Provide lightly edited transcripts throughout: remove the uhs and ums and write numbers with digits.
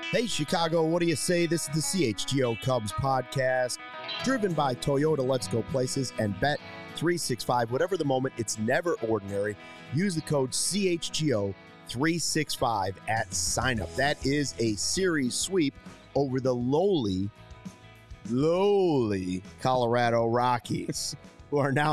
Hey, Chicago, what do you say? This is the CHGO Cubs podcast, driven by Toyota Let's Go Places and Bet365. Whatever the moment, it's never ordinary. Use the code CHGO365 at sign up. That is a series sweep over the lowly Colorado Rockies, who are now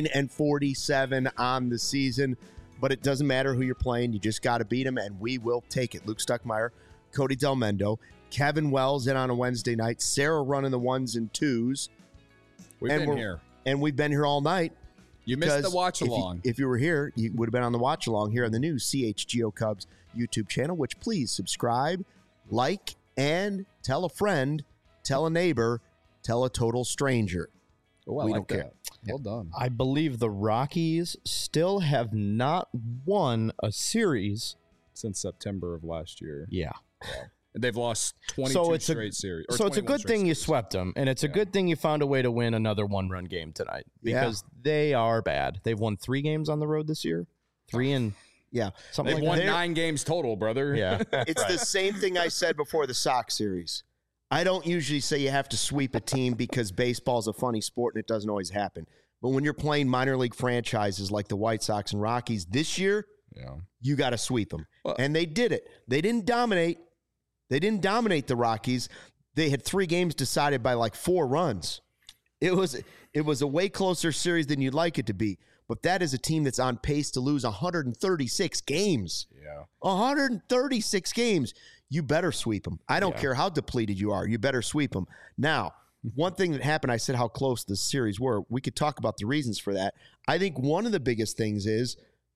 9-47 on the season. But it doesn't matter who you're playing. You just got to beat them, and we will take it. Luke Stuckmeyer, Cody Delmendo, Kevin Wells in on a Wednesday night, Sarah running the ones and twos. We've been here. And we've been here all night. You missed the watch along. If you were here, you would have been on the watch along here on the new CHGO Cubs YouTube channel, which please subscribe, like, and tell a friend, tell a neighbor, tell a total stranger. Oh, we don't care. Well done. I believe the Rockies still have not won a series since September of last year. Yeah. They've lost 22 straight series. So it's a good thing you swept them, and it's a good thing you found a way to win another one-run game tonight because they are bad. They've won 3 games on the road this year. 3 and something They've like won that. 9 games total, brother. Yeah. It's the same thing I said before the Sox series. I don't usually say you have to sweep a team because baseball is a funny sport and it doesn't always happen. But when you're playing minor league franchises like the White Sox and Rockies this year, you got to sweep them. And they did it. They didn't dominate. They didn't dominate the Rockies. They had 3 games decided by like 4 runs. It was a way closer series than you'd like it to be. But that is a team that's on pace to lose 136 games. Yeah. 136 games. You better sweep them. I don't care how depleted you are. You better sweep them. Now, one thing that happened, I said how close the series were. We could talk about the reasons for that. I think one of the biggest things is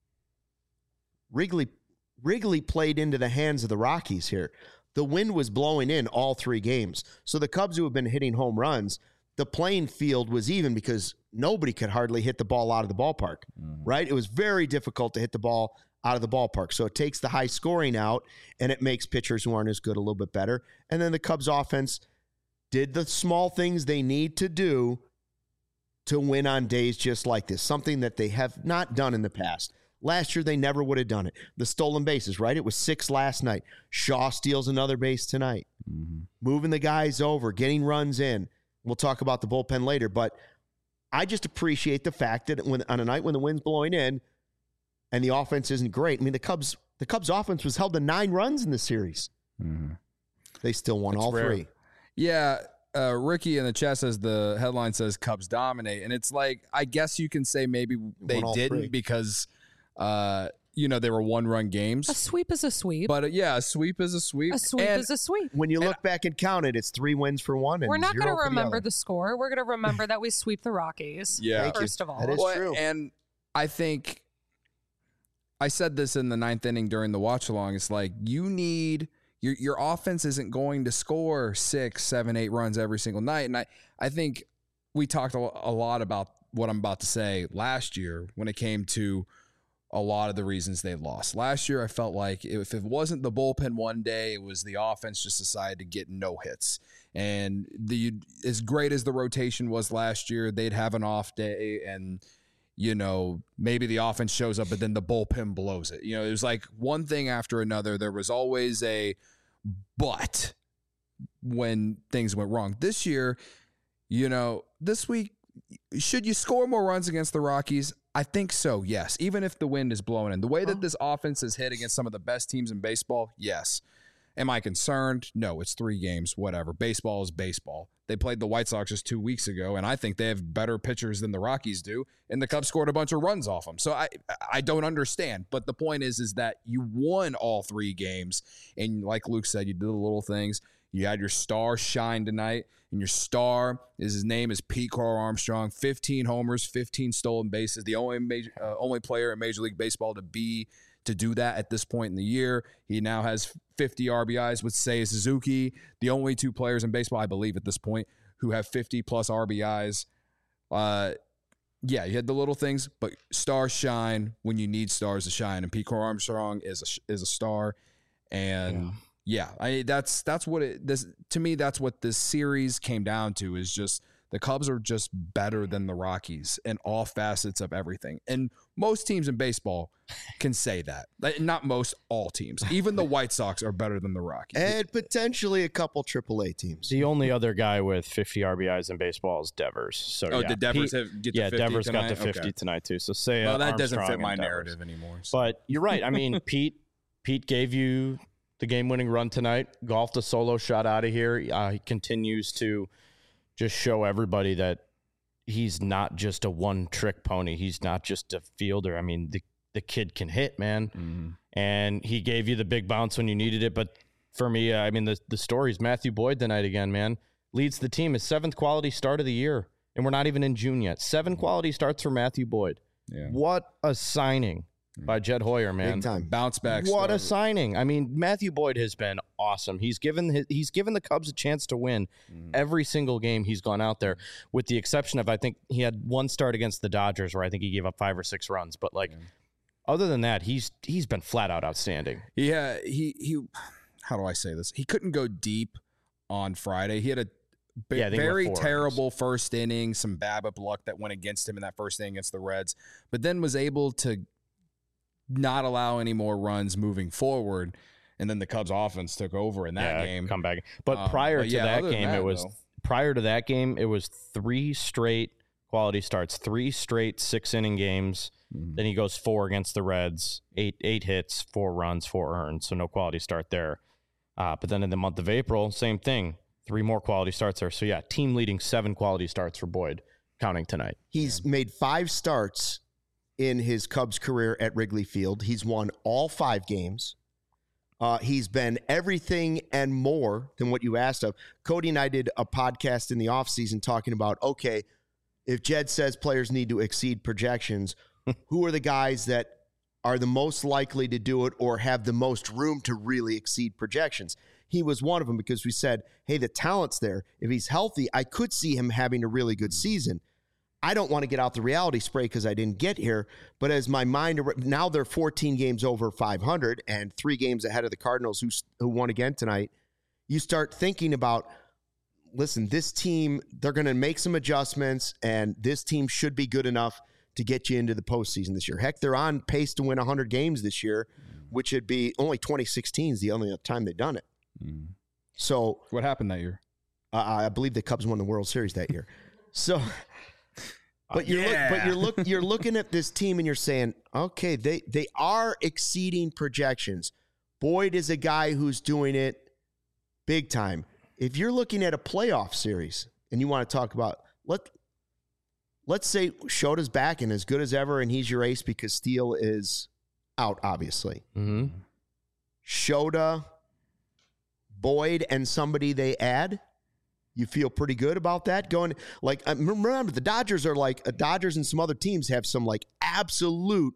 Wrigley played into the hands of the Rockies here. The wind was blowing in all 3 games. So the Cubs, who have been hitting home runs, the playing field was even because nobody could hardly hit the ball out of the ballpark, right? It was very difficult to hit the ball out of the ballpark. So it takes the high scoring out, and it makes pitchers who aren't as good a little bit better. And then the Cubs offense did the small things they need to do to win on days just like this, something that they have not done in the past. Last year, they never would have done it. The stolen bases, right? It was 6 last night. Shaw steals another base tonight. Moving the guys over, getting runs in. We'll talk about the bullpen later, but I just appreciate the fact that on a night when the wind's blowing in and the offense isn't great, I mean, the Cubs offense was held to 9 runs in the series. They still won all 3. Yeah, Ricky in the chat says the headline says Cubs dominate, and it's like, I guess you can say maybe they didn't because they were 1-run games. A sweep is a sweep. But a sweep is a sweep. A sweep is a sweep. When you look back and count it, it's 3 wins for one. And we're not going to remember the score. We're going to remember that we sweep the Rockies. Yeah. First of all. That is true. And I think I said this in the 9th inning during the watch along. It's like you need your offense isn't going to score 6, 7, 8 runs every single night. And I think we talked a lot about what I'm about to say last year when it came to a lot of the reasons they lost. Last year, I felt like if it wasn't the bullpen one day, it was the offense just decided to get no hits. And as great as the rotation was last year, they'd have an off day and, maybe the offense shows up, but then the bullpen blows it. It was like one thing after another. There was always a but when things went wrong. This year, this week, should you score more runs against the Rockies? I think so, yes. Even if the wind is blowing in. The way that this offense has hit against some of the best teams in baseball, yes. Am I concerned? No, it's 3 games, whatever. Baseball is baseball. They played the White Sox just 2 weeks ago, and I think they have better pitchers than the Rockies do, and the Cubs scored a bunch of runs off them. So I don't understand. But the point is that you won all 3 games, and like Luke said, you did the little things. You had your star shine tonight, and your star his name is Pete Crow Armstrong. 15 homers, 15 stolen bases. The only player in Major League Baseball to do that at this point in the year. He now has 50 RBIs with Seiya Suzuki, the only 2 players in baseball, I believe, at this point who have 50-plus RBIs. You had the little things, but stars shine when you need stars to shine, and Pete Crow Armstrong is a star. And that's what to me, that's what this series came down to, is just the Cubs are just better than the Rockies in all facets of everything. And most teams in baseball can say that. Like, not most, all teams. Even the White Sox are better than the Rockies. And potentially a couple AAA teams. The only other guy with 50 RBIs in baseball is Devers. So did Devers get to 50 Devers tonight? got to 50 tonight too. So say well, that doesn't Armstrong fit my and Devers. narrative anymore. So. But you're right. I mean, Pete gave you the game-winning run tonight. Golfed a solo shot out of here. He continues to just show everybody that he's not just a one-trick pony. He's not just a fielder. I mean, the kid can hit, man. Mm-hmm. And he gave you the big bounce when you needed it. But for me, I mean, the story's Matthew Boyd tonight again, man. Leads the team. His 7th quality start of the year. And we're not even in June yet. 7 quality starts for Matthew Boyd. Yeah. What a signing by Jed Hoyer, man. Big time. Bounce back. What a start. signing. I mean, Matthew Boyd has been awesome. He's given the Cubs a chance to win every single game he's gone out there, with the exception of, I think he had one start against the Dodgers where I think he gave up 5 or 6 runs. But other than that, he's been flat out outstanding. Yeah, he how do I say this? He couldn't go deep on Friday. He had a very terrible first inning, some BABIP luck that went against him in that first inning against the Reds, but then was able to not allow any more runs moving forward. And then the Cubs offense took over in that game. Come back. But prior to that game, it was 3 straight quality starts, 3 straight 6-inning games. Mm-hmm. Then he goes 4 against the Reds, 8 hits, 4 runs, 4 earned. So no quality start there. But then in the month of April, same thing. 3 more quality starts there. So, yeah, team leading 7 quality starts for Boyd, counting tonight. He's made 5 starts in his Cubs career at Wrigley Field. He's won all 5 games. He's been everything and more than what you asked of. Cody and I did a podcast in the offseason talking about, okay, if Jed says players need to exceed projections, who are the guys that are the most likely to do it or have the most room to really exceed projections? He was one of them because we said, hey, the talent's there. If he's healthy, I could see him having a really good season. I don't want to get out the reality spray because I didn't get here, but as my mind, now they're 14 games over 500 and 3 games ahead of the Cardinals who won again tonight. You start thinking about, listen, this team, they're going to make some adjustments, and this team should be good enough to get you into the postseason this year. Heck, they're on pace to win 100 games this year, which would be only 2016 is the only time they've done it. So what happened that year? I believe the Cubs won the World Series that year. So, but you're looking at this team and you're saying, okay, they are exceeding projections. Boyd is a guy who's doing it big time. If you're looking at a playoff series and you want to talk about, let's say Shota's back and as good as ever, and he's your ace because Steele is out, obviously. Mm-hmm. Shota, Boyd, and somebody they add, you feel pretty good about that? Going, like, remember, the Dodgers are like, Dodgers and some other teams have some, like, absolute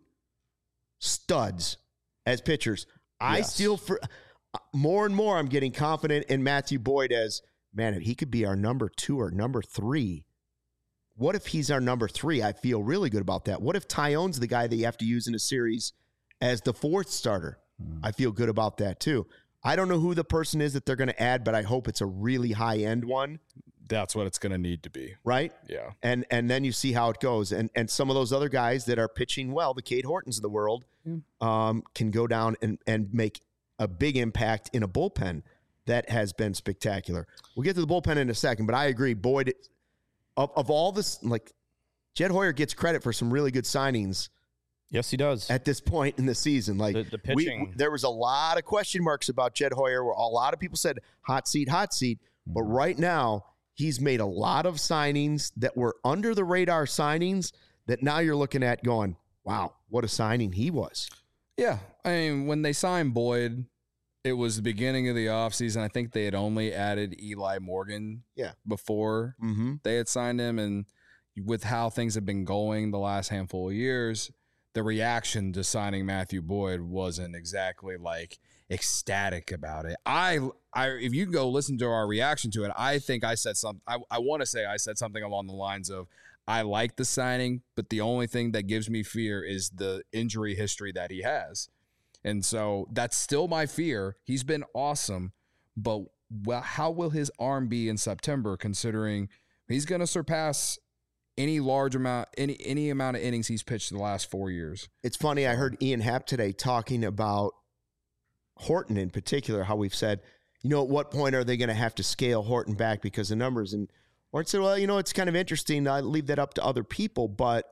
studs as pitchers. I still, more and more, I'm getting confident in Matthew Boyd as, man, if he could be our number 2 or number 3. What if he's our number 3? I feel really good about that. What if Tyone's the guy that you have to use in a series as the 4th starter? I feel good about that, too. I don't know who the person is that they're going to add, but I hope it's a really high-end one. That's what it's going to need to be. Right? Yeah. And then you see how it goes. And some of those other guys that are pitching well, the Cade Hortons of the world, can go down and make a big impact in a bullpen that has been spectacular. We'll get to the bullpen in a second, but I agree. Boyd, of all this, like, Jed Hoyer gets credit for some really good signings. Yes, he does. At this point in the season, like the pitching, there was a lot of question marks about Jed Hoyer, where a lot of people said hot seat. But right now, he's made a lot of signings that were under the radar signings that now you're looking at going, wow, what a signing he was. Yeah, I mean, when they signed Boyd, it was the beginning of the offseason. I think they had only added Eli Morgan before they had signed him, and with how things have been going the last handful of years, the reaction to signing Matthew Boyd wasn't exactly like ecstatic about it. If you go listen to our reaction to it, I think I said something. I want to say I said something along the lines of, I like the signing, but the only thing that gives me fear is the injury history that he has. And so that's still my fear. He's been awesome, but how will his arm be in September, considering he's going to surpass any large amount, any amount of innings he's pitched in the last 4 years. It's funny. I heard Ian Happ today talking about Horton in particular, how we've said, at what point are they going to have to scale Horton back because of numbers? And Horton said, well, it's kind of interesting. I leave that up to other people, but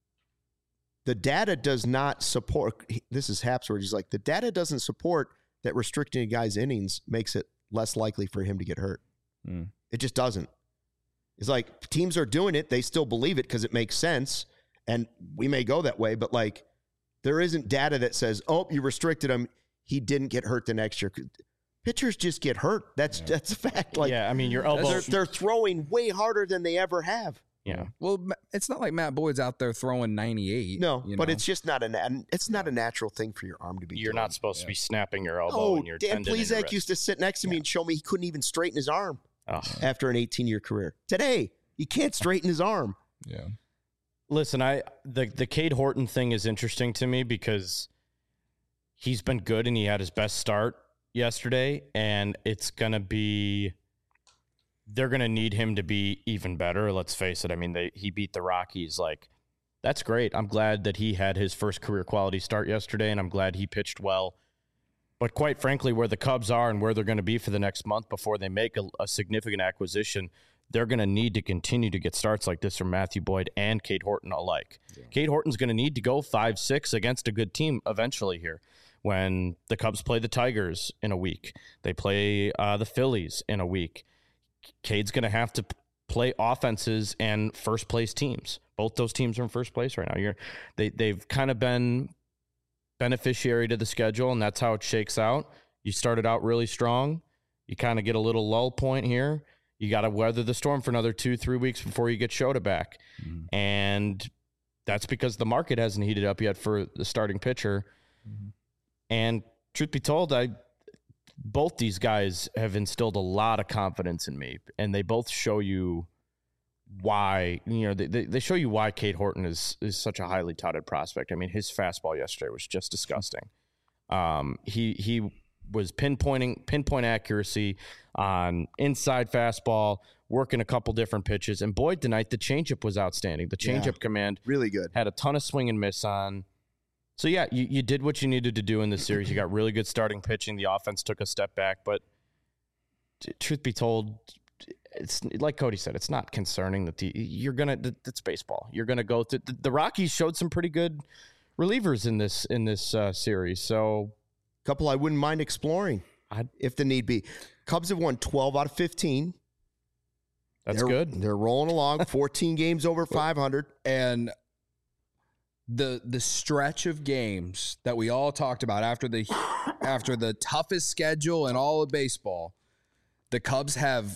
the data does not support, this is Happ's word, he's like, the data doesn't support that restricting a guy's innings makes it less likely for him to get hurt. It just doesn't. It's like teams are doing it. They still believe it because it makes sense. And we may go that way, but like there isn't data that says, oh, you restricted him. He didn't get hurt the next year. Pitchers just get hurt. That's a fact. Like, yeah, I mean, your elbow. They're throwing way harder than they ever have. Yeah. Well, it's not like Matt Boyd's out there throwing 98. No, but it's just not a natural thing for your arm to be You're doing. not supposed to be snapping your elbow and your Dan tendon in your Plesac wrist. used to sit next to me and show me he couldn't even straighten his arm after an 18-year career. Today, he can't straighten his arm. Yeah. Listen, the Cade Horton thing is interesting to me because he's been good and he had his best start yesterday, and it's going to be – they're going to need him to be even better. Let's face it. I mean, he beat the Rockies. Like, that's great. I'm glad that he had his first career quality start yesterday, and I'm glad he pitched well. But quite frankly, where the Cubs are and where they're going to be for the next month before they make a significant acquisition, they're going to need to continue to get starts like this from Matthew Boyd and Cade Horton alike. Yeah. Cade Horton's going to need to go 5-6 against a good team eventually here. When the Cubs play the Tigers in a week, they play the Phillies in a week. Cade's going to have to play offenses and first place teams. Both those teams are in first place right now. They've kind of been beneficiary to the schedule, and that's how it shakes out. You started out really strong. You kind of get a little lull point here. You got to weather the storm for another 2-3 weeks before you get Shota back. Mm-hmm. And that's because the market hasn't heated up yet for the starting pitcher. Mm-hmm. And truth be told, both these guys have instilled a lot of confidence in me, and they both show you why, they show you why Cade Horton is such a highly touted prospect. I mean, his fastball yesterday was just disgusting. He was pinpoint accuracy on inside fastball, working a couple different pitches. And Boyd tonight, the changeup was outstanding. The changeup command really good. Had a ton of swing and miss on. So, yeah, you did what you needed to do in this series. You got really good starting pitching. The offense took a step back. But truth be told, it's like Cody said, it's not concerning that it's baseball. You're going to go through. The Rockies showed some pretty good relievers in this series. So, a couple I wouldn't mind exploring if the need be. Cubs have won 12 out of 15. That's good. They're rolling along. 14 games over 500. And the stretch of games that we all talked about after the toughest schedule in all of baseball, the Cubs have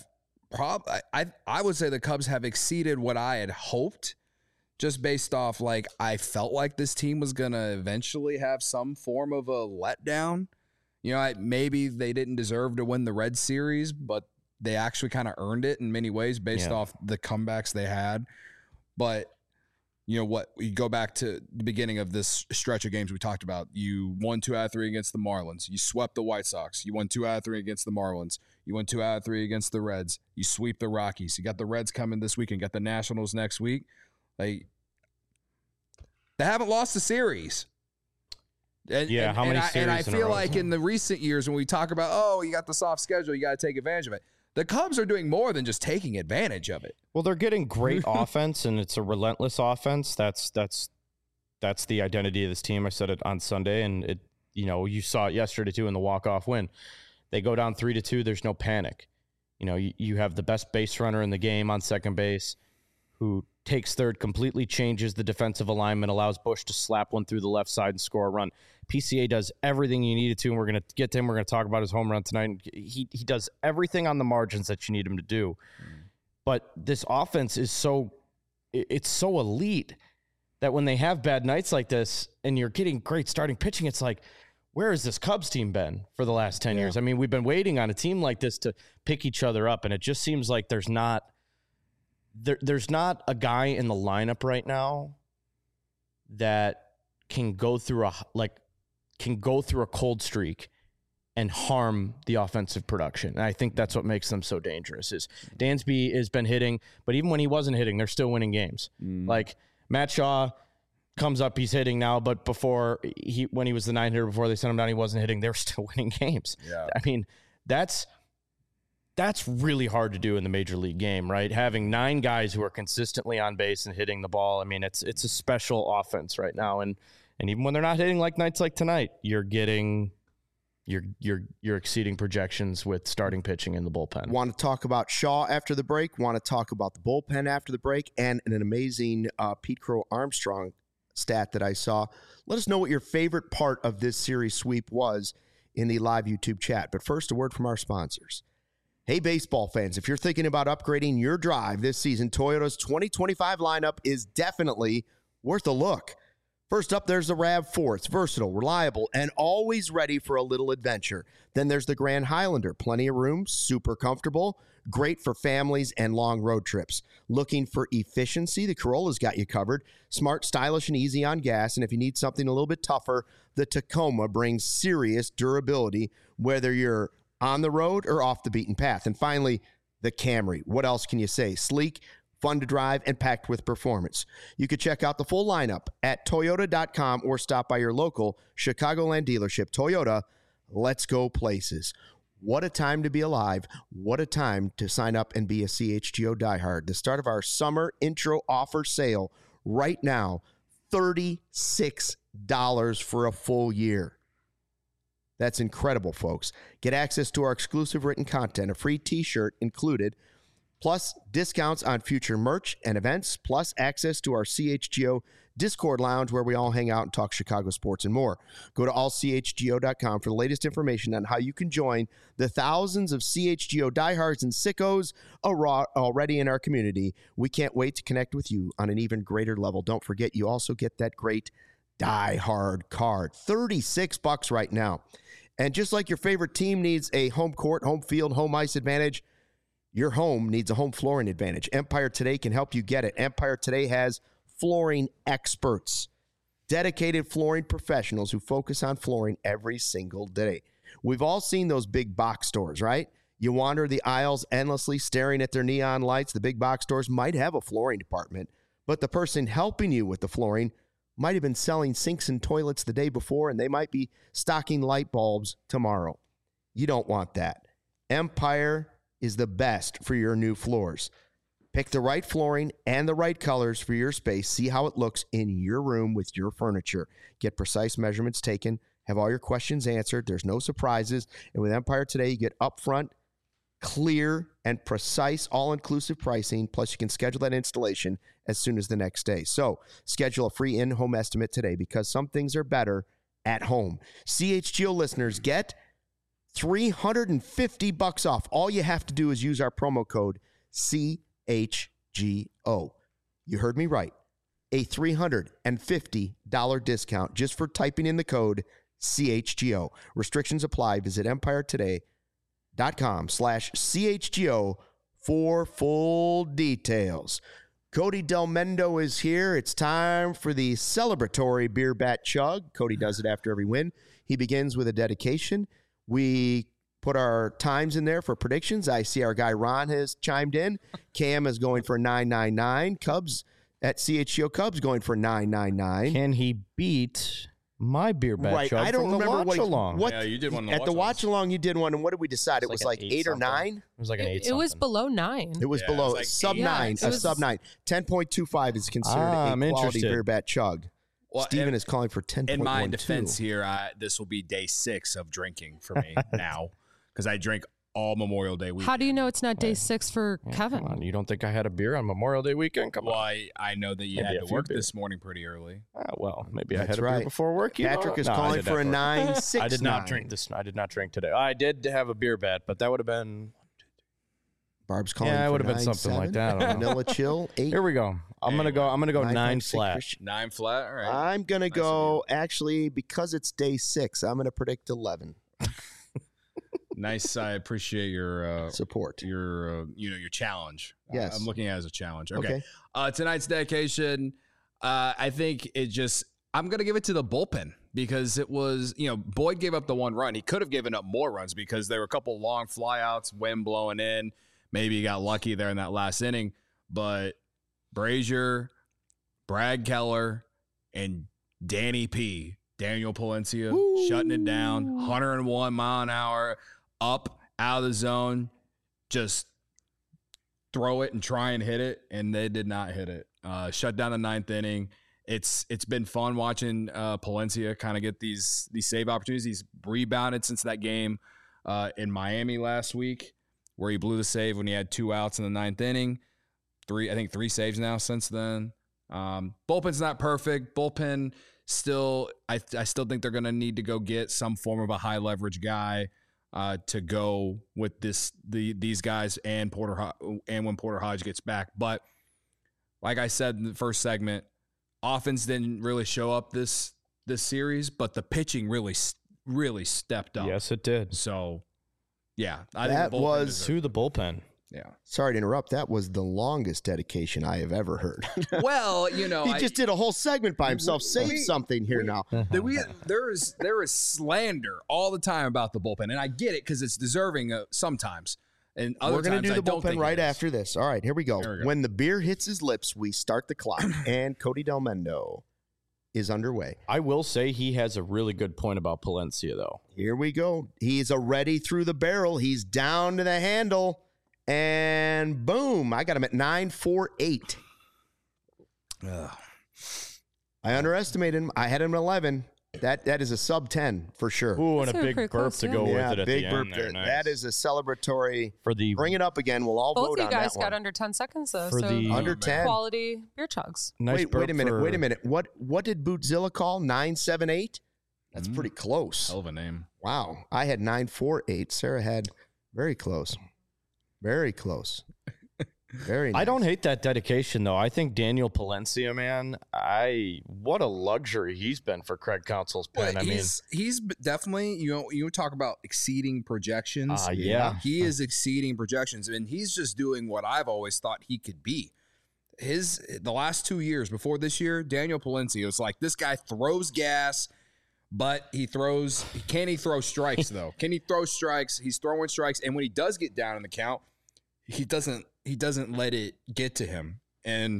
I would say the Cubs have exceeded what I had hoped, just based off I felt like this team was gonna eventually have some form of a letdown. Maybe they didn't deserve to win the Red Series, but they actually kind of earned it in many ways based off the comebacks they had. But you go back to the beginning of this stretch of games we talked about. You won 2 out of 3 against the Marlins. You swept the White Sox. You won 2 out of 3 against the Marlins. You won 2 out of 3 against the Reds. You sweep the Rockies. You got the Reds coming this week and got the Nationals next week. They haven't lost a series. How many series? And I feel like in the recent years when we talk about, you got the soft schedule, you got to take advantage of it. The Cubs are doing more than just taking advantage of it. Well, they're getting great offense, and it's a relentless offense. That's the identity of this team. I said it on Sunday, and you saw it yesterday too in the walk-off win. They go down 3-2. There's no panic. You have the best base runner in the game on second base, who takes third, completely changes the defensive alignment, allows Bush to slap one through the left side and score a run. PCA does everything you needed to, and we're going to get to him. We're going to talk about his home run tonight. He does everything on the margins that you need him to do. But this offense is so elite that when they have bad nights like this and you're getting great starting pitching, it's like, where has this Cubs team been for the last 10 years? I mean, we've been waiting on a team like this to pick each other up, and it just seems like there's not a guy in the lineup right now that can go through a cold streak and harm the offensive production. And I think that's what makes them so dangerous. Is Dansby has been hitting, but even when he wasn't hitting, they're still winning games. Like Matt Shaw comes up, he's hitting now, but when he was the 9 hitter before they sent him down, he wasn't hitting. They're still winning games. Yeah. I mean, that's really hard to do in the major league game, right? Having 9 guys who are consistently on base and hitting the ball. I mean, it's a special offense right now. And even when they're not hitting like nights like tonight, you're exceeding projections with starting pitching in the bullpen. Want to talk about Shaw after the break? Want to talk about the bullpen after the break? And an amazing Pete Crow Armstrong stat that I saw. Let us know what your favorite part of this series sweep was in the live YouTube chat. But first, a word from our sponsors. Hey, baseball fans, if you're thinking about upgrading your drive this season, Toyota's 2025 lineup is definitely worth a look. First up, there's the RAV4. It's versatile, reliable, and always ready for a little adventure. Then there's the Grand Highlander. Plenty of room, super comfortable, great for families and long road trips. Looking for efficiency? The Corolla's got you covered. Smart, stylish, and easy on gas. And if you need something a little bit tougher, the Tacoma brings serious durability, whether you're on the road or off the beaten path. And finally, the Camry. What else can you say? Sleek, fun to drive, and packed with performance. You can check out the full lineup at Toyota.com or stop by your local Chicagoland dealership. Toyota, let's go places. What a time to be alive. What a time to sign up and be a CHGO diehard. The start of our summer intro offer sale right now, $36 for a full year. That's incredible, folks. Get access to our exclusive written content, a free t-shirt included, plus discounts on future merch and events, plus access to our CHGO Discord lounge where we all hang out and talk Chicago sports and more. Go to allchgo.com for the latest information on how you can join the thousands of CHGO diehards and sickos already in our community. We can't wait to connect with you on an even greater level. Don't forget, you also get that great Die Hard card. $36 right now. And just like your favorite team needs a home court, home field, home ice advantage, your home needs a home flooring advantage. Empire Today can help you get it. Empire Today has flooring experts, dedicated flooring professionals who focus on flooring every single day. We've all seen those big box stores, right? You wander the aisles endlessly staring at their neon lights. The big box stores might have a flooring department, but the person helping you with the flooring might have been selling sinks and toilets the day before, and they might be stocking light bulbs tomorrow. You don't want that. Empire is the best for your new floors. Pick the right flooring and the right colors for your space. See how it looks in your room with your furniture. Get precise measurements taken. Have all your questions answered. There's no surprises. And with Empire Today, you get upfront, clear, and precise all-inclusive pricing. Plus, you can schedule that installation as soon as the next day. So schedule a free in-home estimate today because some things are better at home. CHGO listeners get $350 off. All you have to do is use our promo code CHGO. You heard me right. A $350 discount just for typing in the code CHGO. Restrictions apply. Visit EmpireToday.com/CHGO for full details. Cody Del Mendo is here. It's time for the celebratory beer bat chug. Cody does it after every win. He begins with a dedication. We put our times in there for predictions. I see our guy Ron has chimed in. Cam is going for 999. Cubs at CHGO Cubs going for 999. Can he beat my beer bat Right. chug I don't from the remember watch along? what Yeah, you did one at the watch along. You did one, and what did we decide? It was like 8 or 9. It was like an 8 It was something. below 9. It was Yeah, it below was like sub 8. 9. Yeah, A it was- sub 9. 10.25 is considered I'm a quality interested. beer bat chug. Well, Steven is calling for 10.12. In my defense here, this will be day 6 of drinking for me now because I drink all Memorial Day weekend. How do you know it's not day 6 for Yeah, Kevin? come on. You don't think I had a beer on Memorial Day weekend? Come Well, on. I know that you Maybe a had to few work beers. this morning pretty early. Well, maybe I That's had a beer right. before work. You Patrick know? is No, I calling did for a have work. 9.69. I did not drink this. I did not drink today. I did have a beer bat, but that would have been. Barb's calling Yeah, it for would have been something like that. I don't know. Vanilla Chill, 8. Here we go. I'm gonna go 9 flat. Christian. 9 flat. All right. I'm going to Nice of go, actually, because it's day 6, I'm going to predict 11. Nice. I appreciate your Support. your challenge. Yes. I'm looking at it as a challenge. Okay. Okay. Tonight's dedication. I think it just. I'm going to give it to the bullpen because it was, Boyd gave up the 1 run. He could have given up more runs because there were a couple long flyouts, wind blowing in. Maybe he got lucky there in that last inning. But Brazier, Brad Keller, and Danny P, Daniel Palencia, shutting it down, 101 mile an hour, up, out of the zone, just throw it and try and hit it, and they did not hit it. Shut down the 9th inning. It's been fun watching Palencia kind of get these save opportunities. He's rebounded since that game in Miami last week where he blew the save when he had 2 outs in the 9th inning. 3 saves now since then. Bullpen's not perfect. Bullpen still, I still think they're going to need to go get some form of a high leverage guy to go with these guys and when Porter Hodge gets back. But like I said in the first segment, offense didn't really show up this series, but the pitching really stepped up. Yes, it did. So, yeah, I That think the bullpen Was deserved to the bullpen. Yeah. Sorry to interrupt. That was the longest dedication I have ever heard. Well, He just did a whole segment by himself. Save something here now. there is slander all the time about the bullpen, and I get it because it's deserving sometimes. And other We're going times to do I the don't think bullpen it right is. after this. All right, here we go. There we go. When the beer hits his lips, we start the clock, and Cody Delmendo is underway. I will say he has a really good point about Palencia, though. Here we go. He's already through the barrel. He's down to the handle, and boom, I got him at 9.48. I underestimated him. I had him at 11. That is a sub 10 for sure. Ooh, and That's a big pretty burp close, to yeah. go Yeah, with it at big the burp. end there. Nice. That is a celebratory. For the Bring it up again. We'll all Both vote of you on guys that got one. under 10 seconds, though. For so the- Under 10. quality beer chugs. nice Wait a burp minute. for- Wait a minute. What did Bootzilla call 978? That's pretty close. Hell of a name. Wow. I had 948. Sarah had very close. Very close. Very nice. I don't hate that dedication, though. I think Daniel Palencia, man, what a luxury he's been for Craig Counsell's pen. Well, I mean, he's definitely, you talk about exceeding projections. yeah. He is exceeding projections, and he's just doing what I've always thought he could be. The last 2 years before this year, Daniel Palencia was like, this guy throws gas, but can he throw strikes though? Can he throw strikes? He's throwing strikes, and when he does get down in the count, he doesn't let it get to him. And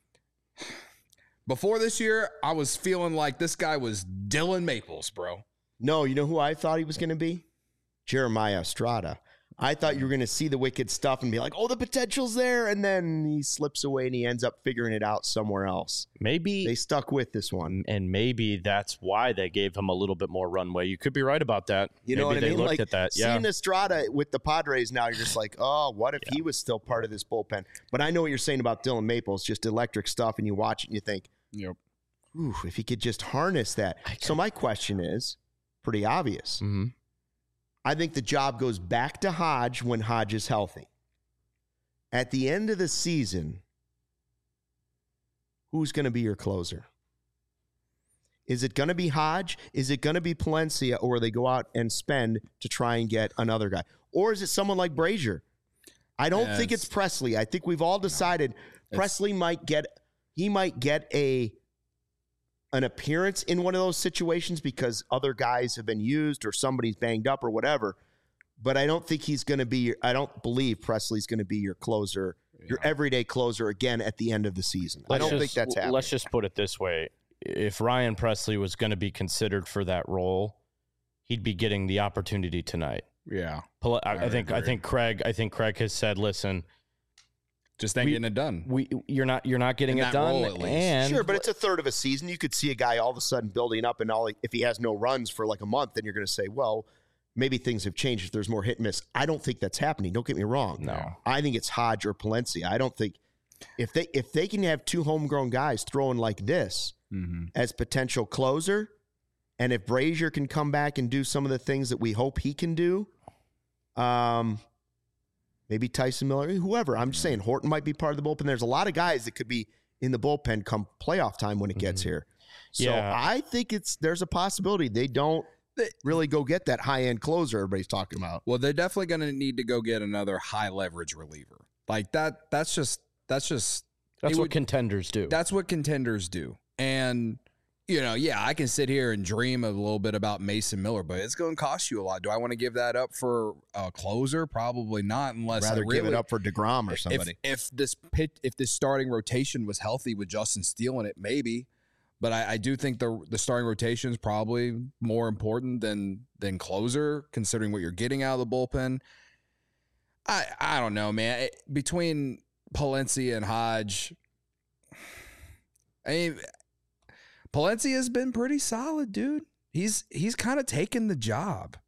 before this year, I was feeling like this guy was Dylan Maples, bro. No, you know who I thought he was going to be? Jeremiah Estrada. I thought you were going to see the wicked stuff and be like, oh, the potential's there. And then he slips away and he ends up figuring it out somewhere else. maybe They stuck with this one. and maybe that's why they gave him a little bit more runway. You could be right about that. You know maybe what I they mean? looked Like at that. Yeah. seeing Estrada with the Padres now, you're just like, oh, what if he was still part of this bullpen? But I know what you're saying about Dylan Maples, just electric stuff, and you watch it and you think, Yep. ooh, if he could just harness that. So my question is pretty obvious. Mhm. I think the job goes back to Hodge when Hodge is healthy. At the end of the season, who's going to be your closer? Is it going to be Hodge? Is it going to be Palencia, or they go out and spend to try and get another guy? Or is it someone like Brazier? I don't think it's Presley. I think we've all decided Presley might get an appearance in one of those situations because other guys have been used or somebody's banged up or whatever. But I don't think he's going to be I don't believe Presley's going to be your closer, your everyday closer again at the end of the season. I don't think that's happening. Let's just put it this way. If Ryan Presley was going to be considered for that role, he'd be getting the opportunity tonight. Yeah. I think Craig has said, listen, Just ain't getting it done. you're not getting In it that role, done. at least. And Sure, but it's a third of a season. You could see a guy all of a sudden building up, and if he has no runs for like a month, then you're going to say, well, maybe things have changed if there's more hit and miss. I don't think that's happening. Don't get me wrong. No. I think it's Hodge or Palencia. I don't think if they can have two homegrown guys throwing like this as potential closer, and if Brazier can come back and do some of the things that we hope he can do, maybe Tyson Miller, whoever. I'm just saying Horton might be part of the bullpen. There's a lot of guys that could be in the bullpen come playoff time when it gets here. So Yeah. I think there's a possibility they don't really go get that high-end closer everybody's talking about. Well, they're definitely going to need to go get another high leverage reliever. Like that. That's what contenders do. That's what contenders do. And I can sit here and dream a little bit about Mason Miller, but it's going to cost you a lot. Do I want to give that up for a closer? Probably not, unless Rather I really give it up for DeGrom or somebody. If this starting rotation was healthy with Justin Steele in it, maybe. But I do think the starting rotation is probably more important than closer, considering what you're getting out of the bullpen. I don't know, man. Between Palencia and Hodge, I mean, Palencia has been pretty solid, dude. He's kind of taken the job.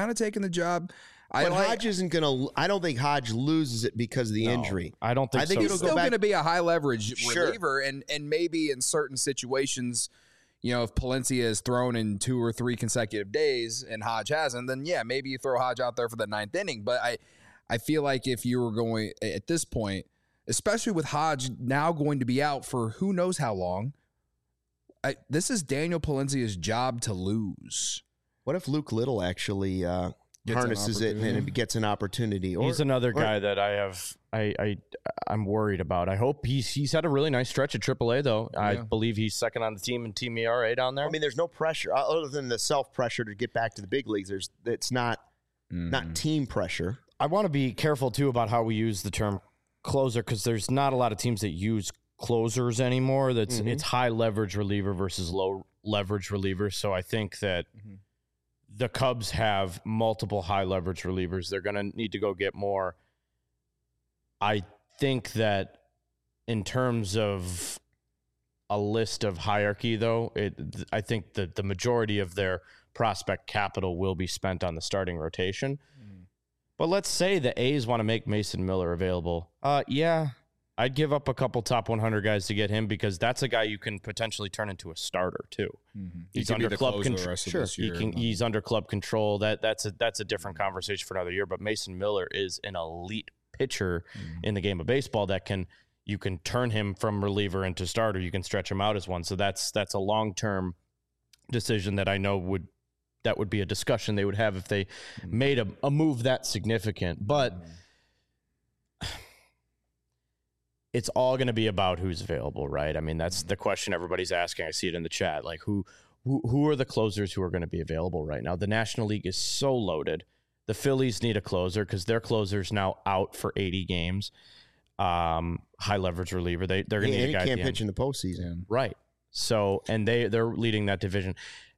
Hodge isn't going to – I don't think Hodge loses it because of the injury. I don't think so. He's still going to be a high-leverage Sure. reliever, and maybe in certain situations, if Palencia is thrown in 2 or 3 consecutive days and Hodge hasn't, then, yeah, maybe you throw Hodge out there for the 9th inning. But I feel like if you were going – at this point, especially with Hodge now going to be out for who knows how long, this is Daniel Palencia's job to lose. What if Luke Little actually harnesses it and it gets an opportunity? He's another guy that I'm worried about. I hope he's had a really nice stretch at AAA though. Yeah. I believe he's second on the team in Team ERA down there. I mean, there's no pressure other than the self pressure to get back to the big leagues. It's not team pressure. I want to be careful too about how we use the term closer because there's not a lot of teams that use closers anymore. It's high leverage reliever versus low leverage reliever. So I think that the Cubs have multiple high leverage relievers. They're going to need to go get more. I think that in terms of a list of hierarchy, though, I think that the majority of their prospect capital will be spent on the starting rotation. But let's say the A's want to make Mason Miller available. Yeah, I'd give up a couple top 100 guys to get him because that's a guy you can potentially turn into a starter too. He's under club control. Sure, he's under club control. That's a different conversation for another year. But Mason Miller is an elite pitcher in the game of baseball you can turn him from reliever into starter. You can stretch him out as one. So that's a long-term decision that I know would be a discussion they would have if they made a move that significant. But it's all going to be about who's available, right? I mean, that's the question everybody's asking. I see it in the chat. Like, who are the closers who are going to be available right now? The National League is so loaded. The Phillies need a closer because their closer's now out for 80 games. High leverage reliever. They're going to need a guy. He can't pitch in the postseason, right? So, and they're leading that division.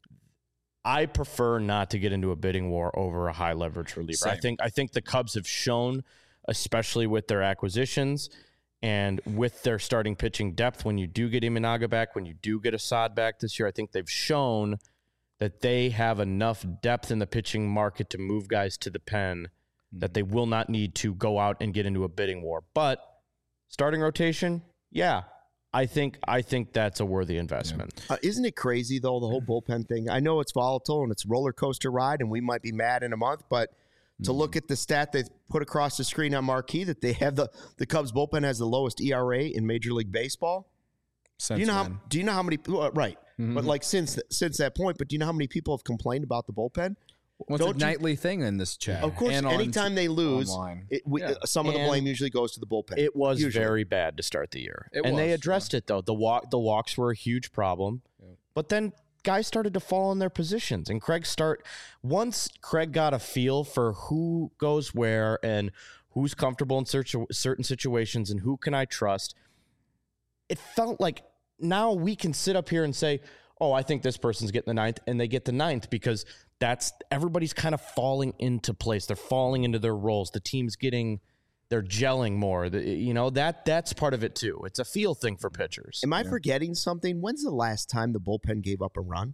I prefer not to get into a bidding war over a high leverage reliever. Same. I think the Cubs have shown, especially with their acquisitions and with their starting pitching depth, when you do get Imanaga back, when you do get Assad back this year, I think they've shown that they have enough depth in the pitching market to move guys to the pen that they will not need to go out and get into a bidding war. But starting rotation, yeah, I think that's a worthy investment. Yeah. Isn't it crazy, though, the whole bullpen thing? I know it's volatile and it's a roller coaster ride, and we might be mad in a month, but to look at the stat they put across the screen on Marquee that they have the Cubs bullpen has the lowest ERA in Major League Baseball. Do you know how many right? But like since that point, but do you know how many people have complained about the bullpen? What's a nightly thing in this chat? Of course, anytime they lose, some of the blame usually goes to the bullpen. It was very bad to start the year, they addressed it though. The walks were a huge problem, but then guys started to fall in their positions, and once Craig got a feel for who goes where and who's comfortable in certain situations and who can I trust, it felt like now we can sit up here and say, oh, I think this person's getting the ninth, and they get the ninth because everybody's kind of falling into place. They're falling into their roles. The team's they're gelling more. That's part of it too. It's a feel thing for pitchers. Am I forgetting something? When's the last time the bullpen gave up a run?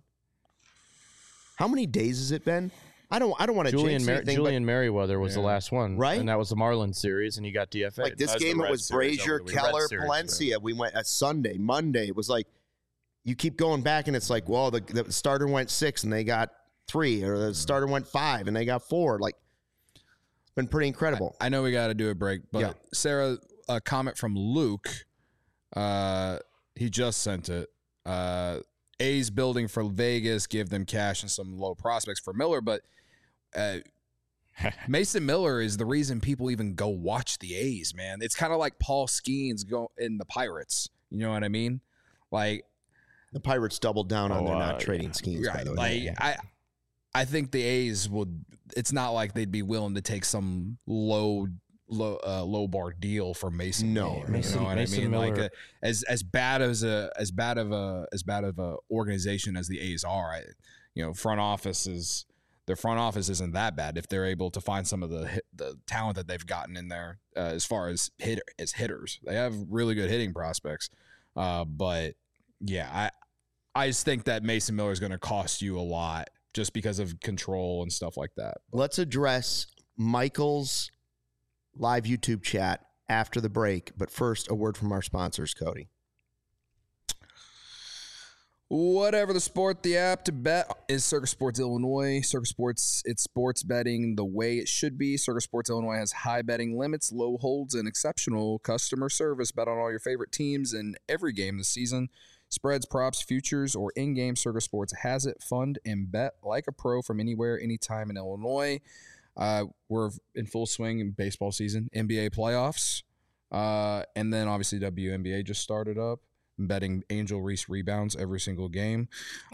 How many days has it been? I don't want to jinx anything. Julian Merriweather was the last one, right? And that was the Marlins series, and he got DFA'd. Like this game, it was Brazier, Keller, Palencia. We went Sunday, Monday. It was like you keep going back, and it's like, well, the starter went 6 and they got 3, or the starter went 5 and they got 4. Like, it's been pretty incredible. I know we got to do a break, but Sarah, a comment from Luke. He just sent it. A's building for Vegas, give them cash and some low prospects for Miller, but Mason Miller is the reason people even go watch the A's, man. It's kind of like Paul Skeens go in the Pirates. You know what I mean? Like, The Pirates doubled down on their not trading schemes, by the way. I think the A's would. It's not like they'd be willing to take some low bar deal for Mason. No, Miller, you know what I mean? Miller. Like as bad of a organization as the A's are, front office is. Their front office isn't that bad if they're able to find some of the talent that they've gotten in there as far as hitters. They have really good hitting prospects. But, yeah, I just think that Mason Miller is going to cost you a lot just because of control and stuff like that. Let's address Michael's live YouTube chat after the break. But first, a word from our sponsors, Cody. Whatever the sport, the app to bet is Circus Sports Illinois. Circus Sports, it's sports betting the way it should be. Circus Sports Illinois has high betting limits, low holds, and exceptional customer service. Bet on all your favorite teams in every game this season. Spreads, props, futures, or in-game, Circus Sports has it. Fund and bet like a pro from anywhere, anytime in Illinois. We're in full swing in baseball season, NBA playoffs, and then obviously WNBA just started up. Betting Angel Reese rebounds every single game.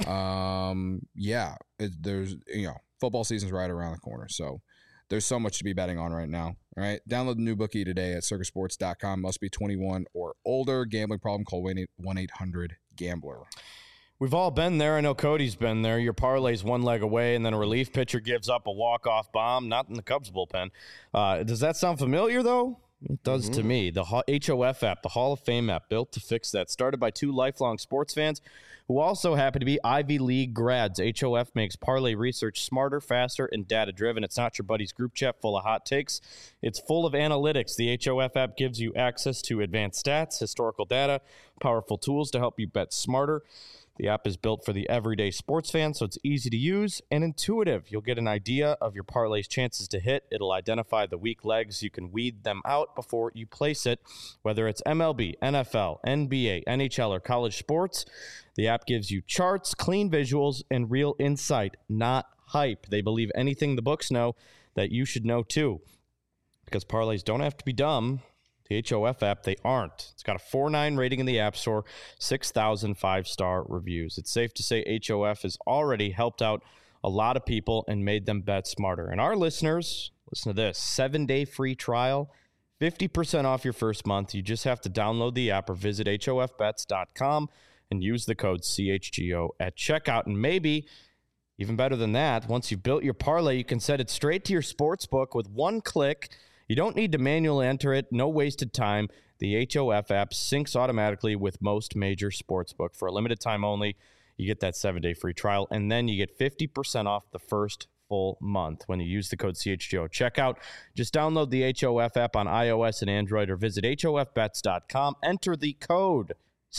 There's football season's right around the corner, so there's so much to be betting on right now. All right, download the new bookie today at circusports.com. Must be 21 or older. Gambling problem? Call 1-800-GAMBLER. We've all been there. I know Cody's been there. Your parlay's one leg away, and then a relief pitcher gives up a walk-off bomb. Not in the Cubs bullpen. Does that sound familiar though? It does to me. The HOF app, the Hall of Fame app, built to fix that. Started by two lifelong sports fans who also happen to be Ivy League grads. HOF makes parlay research smarter, faster, and data-driven. It's not your buddy's group chat full of hot takes. It's full of analytics. The HOF app gives you access to advanced stats, historical data, powerful tools to help you bet smarter. The app is built for the everyday sports fan, so it's easy to use and intuitive. You'll get an idea of your parlay's chances to hit. It'll identify the weak legs. You can weed them out before you place it, whether it's MLB, NFL, NBA, NHL, or college sports. The app gives you charts, clean visuals, and real insight, not hype. They believe anything the books know that you should know too, because parlays don't have to be dumb. The HOF app, they aren't. It's got a 4.9 rating in the App Store, 6,000 5-star reviews. It's safe to say HOF has already helped out a lot of people and made them bet smarter. And our listeners, listen to this, 7-day free trial, 50% off your first month. You just have to download the app or visit hofbets.com and use the code CHGO at checkout. And maybe, even better than that, once you've built your parlay, you can set it straight to your sports book with one click. You don't need to manually enter it. No wasted time. The HOF app syncs automatically with most major sportsbook. For a limited time only, you get that 7-day free trial, and then you get 50% off the first full month when you use the code CHGO checkout. Just download the HOF app on iOS and Android or visit hofbets.com. Enter the code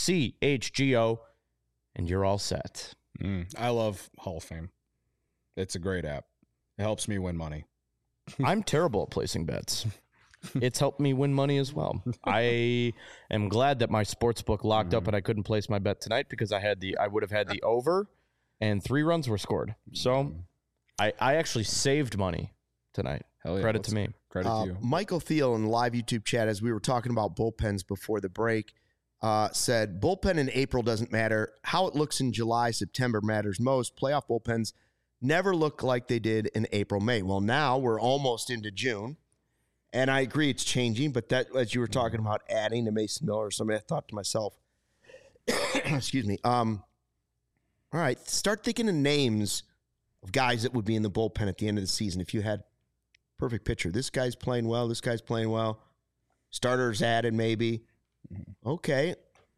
CHGO, and you're all set. I love Hall of Fame. It's a great app. It helps me win money. I'm terrible at placing bets. It's helped me win money as well. I am glad that my sports book locked up and I couldn't place my bet tonight because I would have had the over and 3 runs were scored. So I actually saved money tonight. Hell yeah. Credit to me. Credit to you. Michael Thiel in the live YouTube chat, as we were talking about bullpens before the break, said bullpen in April doesn't matter. How it looks in July, September matters most. Playoff bullpens never look like they did in April, May. Well, now we're almost into June, and I agree it's changing, but that, as you were talking about adding to Mason Miller or somebody, I thought to myself, excuse me, all right, start thinking of names of guys that would be in the bullpen at the end of the season if you had perfect picture. This guy's playing well, this guy's playing well, starters added maybe. Okay.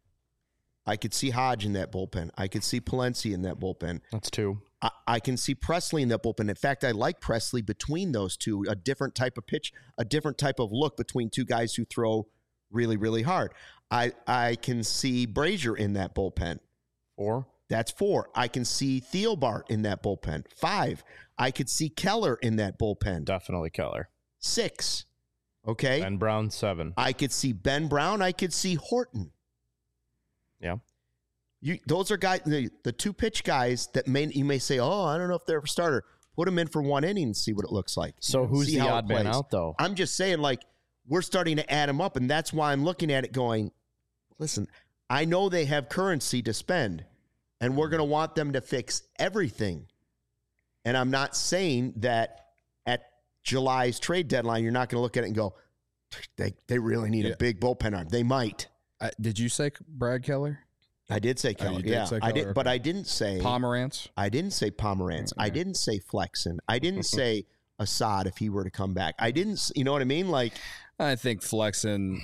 I could see Hodge in that bullpen. I could see Palencia in that bullpen. That's 2. I can see Presley in that bullpen. In fact, I like Presley between those two, a different type of pitch, a different type of look between two guys who throw really, really hard. I can see Brazier in that bullpen. 4. That's 4. I can see Thielbart in that bullpen. 5. I could see Keller in that bullpen. Definitely Keller. 6. Okay. Ben Brown, 7. I could see Ben Brown. I could see Horton. Yeah. Those are guys, the 2 pitch guys that you may say, oh, I don't know if they're a starter. Put them in for 1 inning and see what it looks like. So who's the odd man out, though? I'm just saying, like, we're starting to add them up, and that's why I'm looking at it going, listen, I know they have currency to spend. and we're going to want them to fix everything. And I'm not saying that at July's trade deadline, you're not going to look at it and go, they really need a big bullpen arm. They might. Did you say Brad Keller? I did say Keller. I did, but I didn't say Pomerantz. I didn't say Pomerantz. I didn't say Flexen. I didn't say Assad if he were to come back. I didn't. You know what I mean? Like, I think Flexen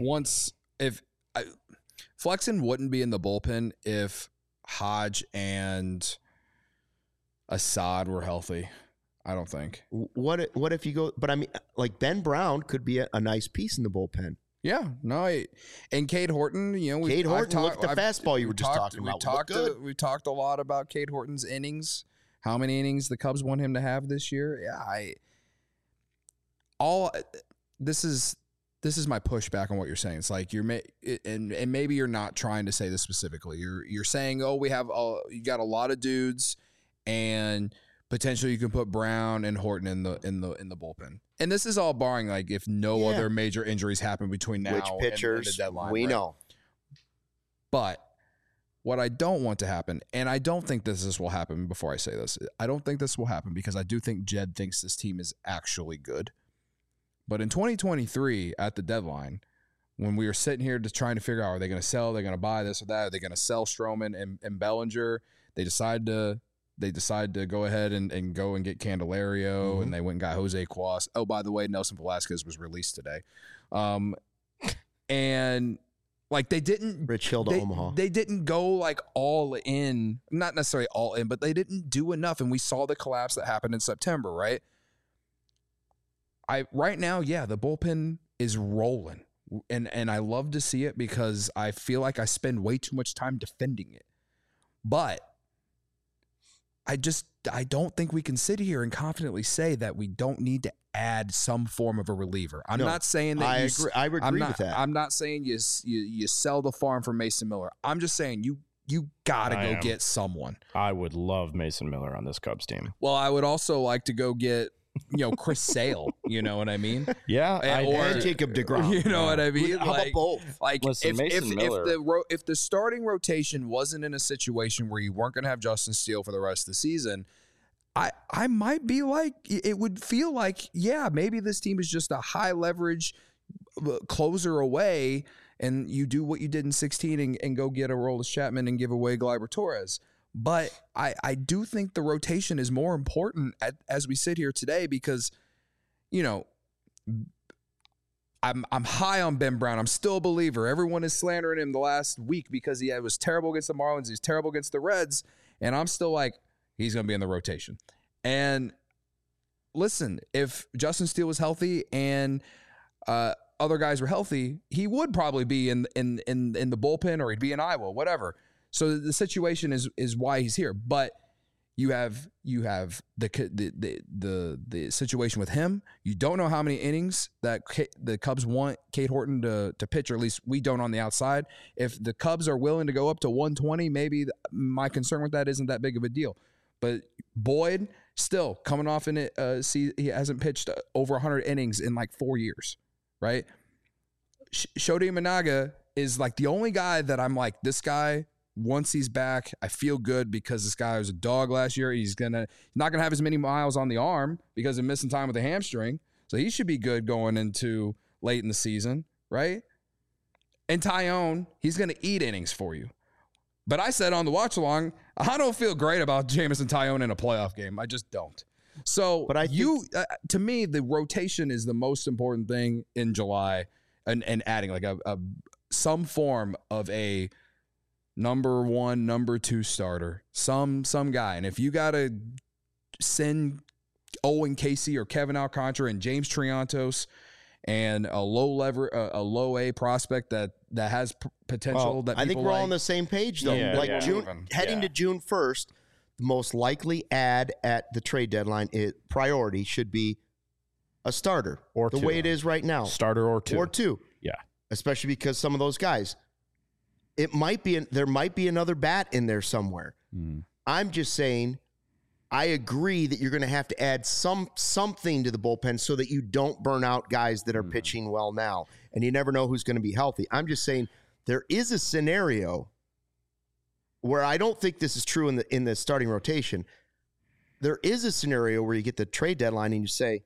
Flexen wouldn't be in the bullpen if Hodge and Assad were healthy. I don't think. What if you go? But I mean, like Ben Brown could be a nice piece in the bullpen. Yeah, no, and Cade Horton, Cade Horton, look at the fastball you were just talking about. We talked a lot about Cade Horton's innings, how many innings the Cubs want him to have this year. Yeah, this is my pushback on what you're saying. It's like and maybe you're not trying to say this specifically. You're saying, oh, you got a lot of dudes, and potentially you can put Brown and Horton in the bullpen. And this is all barring like if no other major injuries happen between now and the deadline. We know. But what I don't want to happen, and I don't think this will happen before I say this, I don't think this will happen because I do think Jed thinks this team is actually good. But in 2023 at the deadline, when we were sitting here just trying to figure out, are they going to sell, are they going to buy this or that, are they going to sell Stroman and Bellinger, they decide to go ahead and go and get Candelario, and they went and got Jose Cuas. Oh, by the way, Nelson Velasquez was released today. And like they didn't Rich Hill to Omaha. They didn't go like all in, not necessarily all in, but they didn't do enough. And we saw the collapse that happened in September, right? Right now, the bullpen is rolling. And I love to see it because I feel like I spend way too much time defending it. But I don't think we can sit here and confidently say that we don't need to add some form of a reliever. I'm not saying that I agree with that. I'm not saying you sell the farm for Mason Miller. I'm just saying you gotta go get someone. I would love Mason Miller on this Cubs team. Well, I would also like to go get Chris Sale. You know what I mean? Yeah, and Jacob deGrom. You know what I mean? How about both? Like, listen, if the starting rotation wasn't in a situation where you weren't going to have Justin Steele for the rest of the season, I might be like, it would feel like, maybe this team is just a high leverage closer away, and you do what you did in 2016 and go get a Aroldis Chapman and give away Gleyber Torres. But I do think the rotation is more important as we sit here today because, I'm high on Ben Brown. I'm still a believer. Everyone is slandering him the last week because he was terrible against the Marlins. He's terrible against the Reds. And I'm still like, he's going to be in the rotation. And listen, if Justin Steele was healthy and other guys were healthy, he would probably be in the bullpen, or he'd be in Iowa, whatever. So the situation is why he's here. But you have the situation with him. You don't know how many innings that the Cubs want Cade Horton to pitch, or at least we don't on the outside. If the Cubs are willing to go up to 120, maybe my concern with that isn't that big of a deal. But Boyd still coming off in it. He hasn't pitched over 100 innings in like 4 years, right? Shodi Imanaga is like the only guy that I'm like, this guy. Once he's back, I feel good because this guy was a dog last year. He's not gonna have as many miles on the arm because of missing time with the hamstring. So he should be good going into late in the season, right? And Tyone, he's gonna eat innings for you. But I said on the watch along, I don't feel great about Jameson Tyone in a playoff game. I just don't. So, but to me, the rotation is the most important thing in July, and adding like some form of a number one, number two starter, some guy. And if you got to send Owen Casey or Kevin Alcantara and James Triantos and a low A prospect that has potential, that I think we're all on the same page though. Heading to June 1st, the most likely add at the trade deadline priority should be a starter, or the way it is right now. Starter or two. Yeah, especially because some of those guys. There might be another bat in there somewhere. I'm just saying, I agree that you're going to have to add something to the bullpen so that you don't burn out guys that are pitching well now, and you never know who's going to be healthy. I'm just saying there is a scenario where I don't think this is true in the starting rotation, there is a scenario where you get the trade deadline and you say,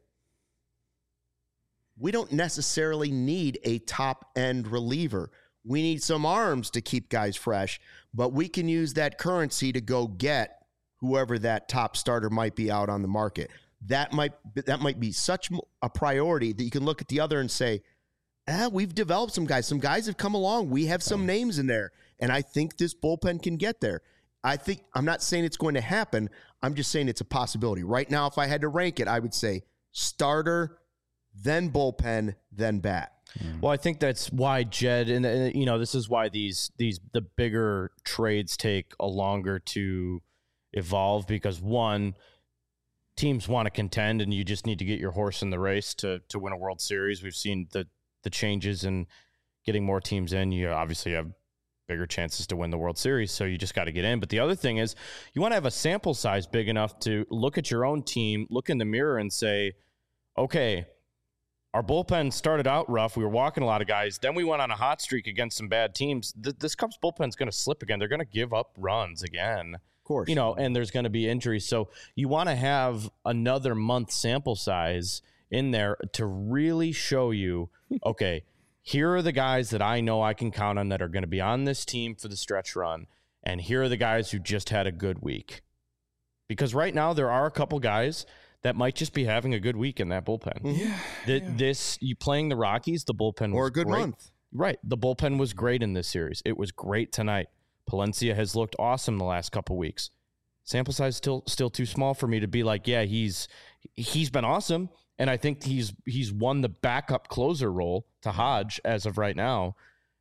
we don't necessarily need a top-end reliever. We need some arms to keep guys fresh, but we can use that currency to go get whoever that top starter might be out on the market. That might be such a priority that you can look at the other and say, we've developed some guys. Some guys have come along. We have some names in there, and I think this bullpen can get there. I'm not saying it's going to happen. I'm just saying it's a possibility. Right now, if I had to rank it, I would say starter, then bullpen, then bat. Well, I think that's why Jed, and this is why the bigger trades take a longer to evolve, because one, teams want to contend, and you just need to get your horse in the race to win a World Series. We've seen the changes in getting more teams in. You obviously have bigger chances to win the World Series, so you just got to get in. But the other thing is, you want to have a sample size big enough to look at your own team, look in the mirror, and say, okay, our bullpen started out rough. We were walking a lot of guys. Then we went on a hot streak against some bad teams. This Cubs bullpen's going to slip again. They're going to give up runs again. Of course. And there's going to be injuries. So you want to have another month sample size in there to really show you, okay, here are the guys that I know I can count on that are going to be on this team for the stretch run. And here are the guys who just had a good week. Because right now there are a couple guys that might just be having a good week in that bullpen. Yeah. You playing the Rockies, the bullpen was or a good great. month. Right. The bullpen was great in this series. It was great tonight. Palencia has looked awesome the last couple weeks. Sample size still too small for me to be like, yeah, he's been awesome. And I think he's won the backup closer role to Hodge as of right now.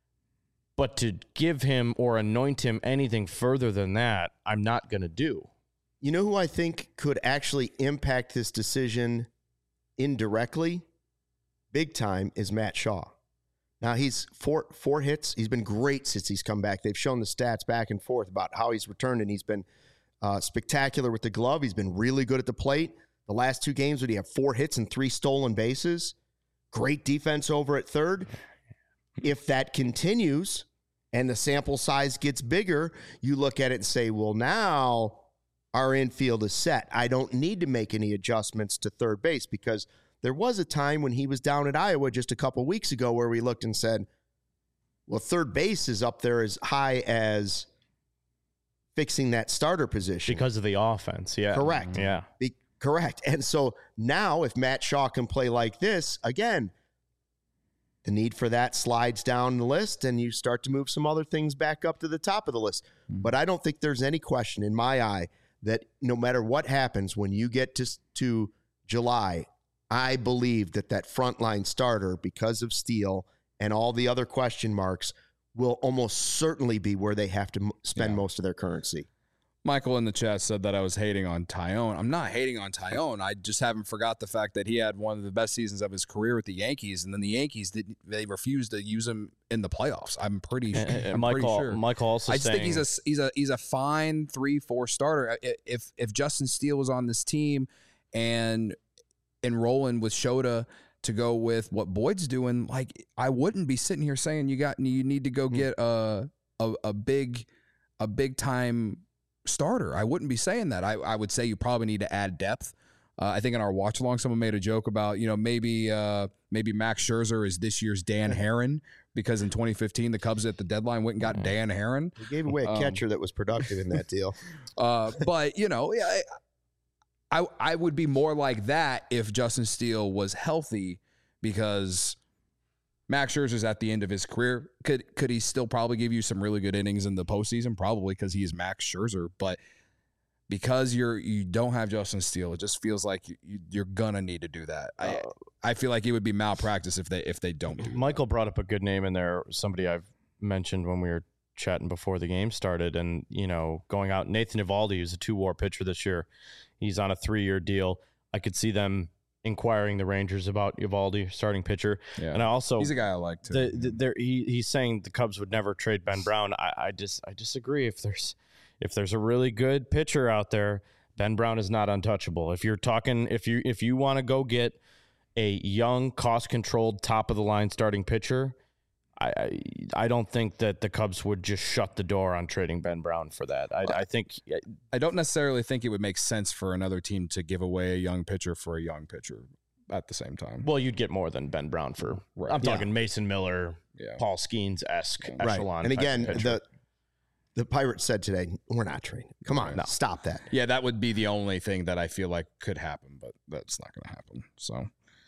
But to give him or anoint him anything further than that, I'm not going to do. You know who I think could actually impact this decision indirectly, big time, is Matt Shaw. Now, he's four hits. He's been great since he's come back. They've shown the stats back and forth about how he's returned, and he's been spectacular with the glove. He's been really good at the plate. The last 2 games, he have 4 hits and 3 stolen bases. Great defense over at third. If that continues and the sample size gets bigger, you look at it and say, well, now our infield is set. I don't need to make any adjustments to third base, because there was a time when he was down at Iowa just a couple weeks ago where we looked and said, well, third base is up there as high as fixing that starter position. Because of the offense, yeah. Correct. Yeah. Correct. And so now if Matt Shaw can play like this, again, the need for that slides down the list and you start to move some other things back up to the top of the list. But I don't think there's any question in my eye that no matter what happens when you get to July, I believe that frontline starter, because of Steele and all the other question marks, will almost certainly be where they have to spend most of their currency. Michael in the chat said that I was hating on Tyone. I'm not hating on Tyone. I just haven't forgot the fact that he had one of the best seasons of his career with the Yankees, and then the Yankees they refused to use him in the playoffs. I'm pretty sure. Michael also I just think he's a fine 3-4 starter. If Justin Steele was on this team and enrolling with Shota to go with what Boyd's doing, like, I wouldn't be sitting here saying you need to go get a big time starter. I wouldn't be saying that. I would say you probably need to add depth. I think in our watch along, someone made a joke about, maybe Max Scherzer is this year's Dan Herron, because in 2015 the Cubs at the deadline went and got Dan Herron. They gave away a catcher that was productive in that deal. But I would be more like that if Justin Steele was healthy, because Max Scherzer's at the end of his career. Could he still probably give you some really good innings in the postseason? Probably, because he is Max Scherzer. But because you don't have Justin Steele, it just feels like you're gonna need to do that. I feel like it would be malpractice if they don't do that. Michael brought up a good name in there. Somebody I've mentioned when we were chatting before the game started, and going out, Nathan Eovaldi, who's a 2-WAR pitcher this year. He's on a 3-year deal. I could see them inquiring the Rangers about Eovaldi, starting pitcher. Yeah. And he's a guy I like too. He's saying the Cubs would never trade Ben Brown. I disagree. If there's a really good pitcher out there, Ben Brown is not untouchable. If you want to go get a young, cost-controlled, top of the line starting pitcher, I don't think that the Cubs would just shut the door on trading Ben Brown for that. I think I don't necessarily think it would make sense for another team to give away a young pitcher for a young pitcher at the same time. well, you'd get more than Ben Brown for. Right. I'm talking Mason Miller, Yeah. Paul Skeens-esque echelon. And type again, pitcher. the Pirates said today, we're not trading. Come on, No. stop that. Yeah, that would be the only thing that I feel like could happen, but that's not going to happen. So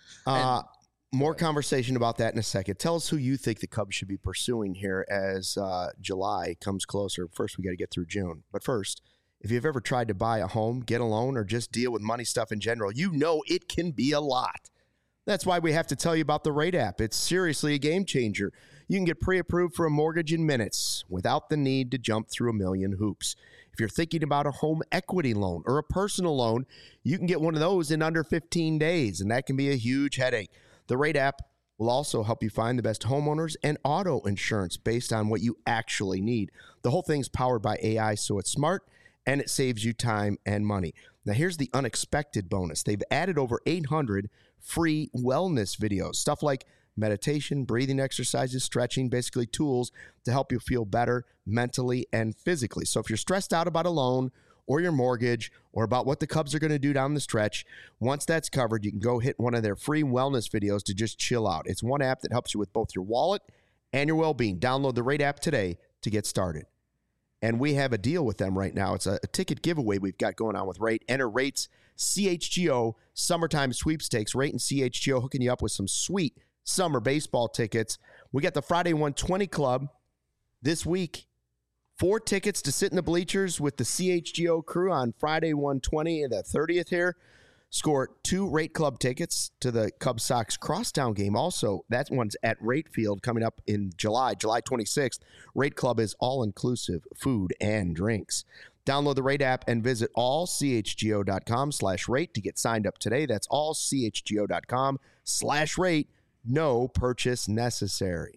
More conversation about that in a second. Tell us who you think the Cubs should be pursuing here as July comes closer. First, we got to get through June. But first, if you've ever tried to buy a home, get a loan, or just deal with money stuff in general, you know it can be a lot. That's why we have to tell you about the Rate app. It's seriously a game changer. You can get pre-approved for a mortgage in minutes without the need to jump through a million hoops. If you're thinking about a home equity loan or a personal loan, you can get one of those in under 15 days, and that can be a huge headache. The Rate app will also help you find the best homeowners and auto insurance based on what you actually need. The whole thing's powered by AI, so it's smart, and it saves you time and money. Now, here's the unexpected bonus. They've added over 800 free wellness videos, stuff like meditation, breathing exercises, stretching, basically tools to help you feel better mentally and physically. So if you're stressed out about a loan or your mortgage or about what the Cubs are going to do down the stretch, once that's covered, you can go hit one of their free wellness videos to just chill out. It's one app that helps you with both your wallet and your well-being. Download the Rate app today to get started. And we have a deal with them right now. It's a ticket giveaway we've got going on with Rate. Enter Rate's CHGO Summertime Sweepstakes. Rate and CHGO hooking you up with some sweet summer baseball tickets. We got the Friday 120 Club this week. 4 tickets to sit in the bleachers with the CHGO crew on Friday 120 and the 30th here. Score 2 Rate Club tickets to the Cubs Sox Crosstown game. Also, that one's at Rate Field coming up in July 26th. Rate Club is all-inclusive food and drinks. Download the Rate app and visit allchgo.com/rate to get signed up today. That's allchgo.com/rate. No purchase necessary.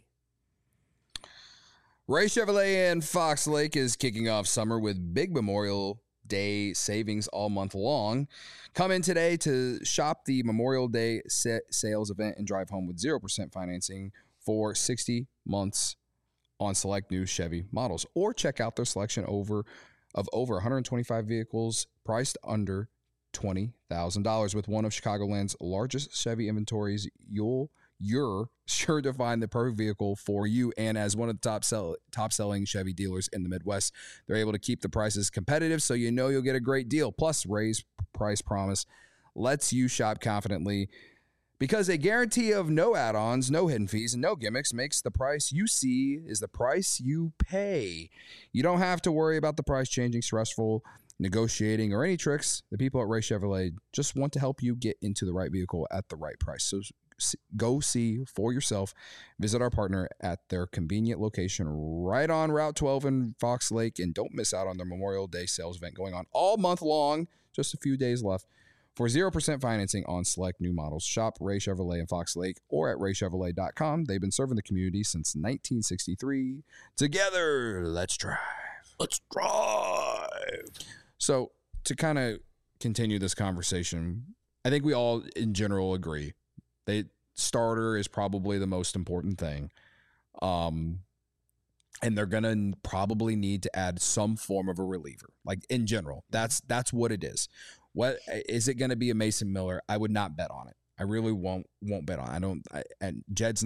Ray Chevrolet in Fox Lake is kicking off summer with big Memorial Day savings all month long. Come in today to shop the Memorial Day sales event and drive home with 0% financing for 60 months on select new Chevy models. Or check out their selection of over 125 vehicles priced under $20,000 with one of Chicagoland's largest Chevy inventories. You're sure to find the perfect vehicle for you. And as one of the top selling Chevy dealers in the Midwest, they're able to keep the prices competitive, so you know you'll get a great deal. Plus, Ray's price promise lets you shop confidently because a guarantee of no add-ons, no hidden fees, and no gimmicks makes the price you see is the price you pay. You don't have to worry about the price changing, stressful negotiating, or any tricks. The people at Ray Chevrolet just want to help you get into the right vehicle at the right price. So go see for yourself. Visit our partner at their convenient location right on Route 12 in Fox Lake, and don't miss out on their Memorial Day sales event going on all month long. Just a few days left. For 0% financing on select new models, shop Ray Chevrolet in Fox Lake or at raychevrolet.com. They've been serving the community since 1963. Together, let's drive. Let's drive. So to kind of continue this conversation, I think we all in general agree the starter is probably the most important thing. And they're going to probably need to add some form of a reliever. Like in general, that's what it is. What is it going to be a Mason Miller? I would not bet on it. I really won't bet on it. And Jed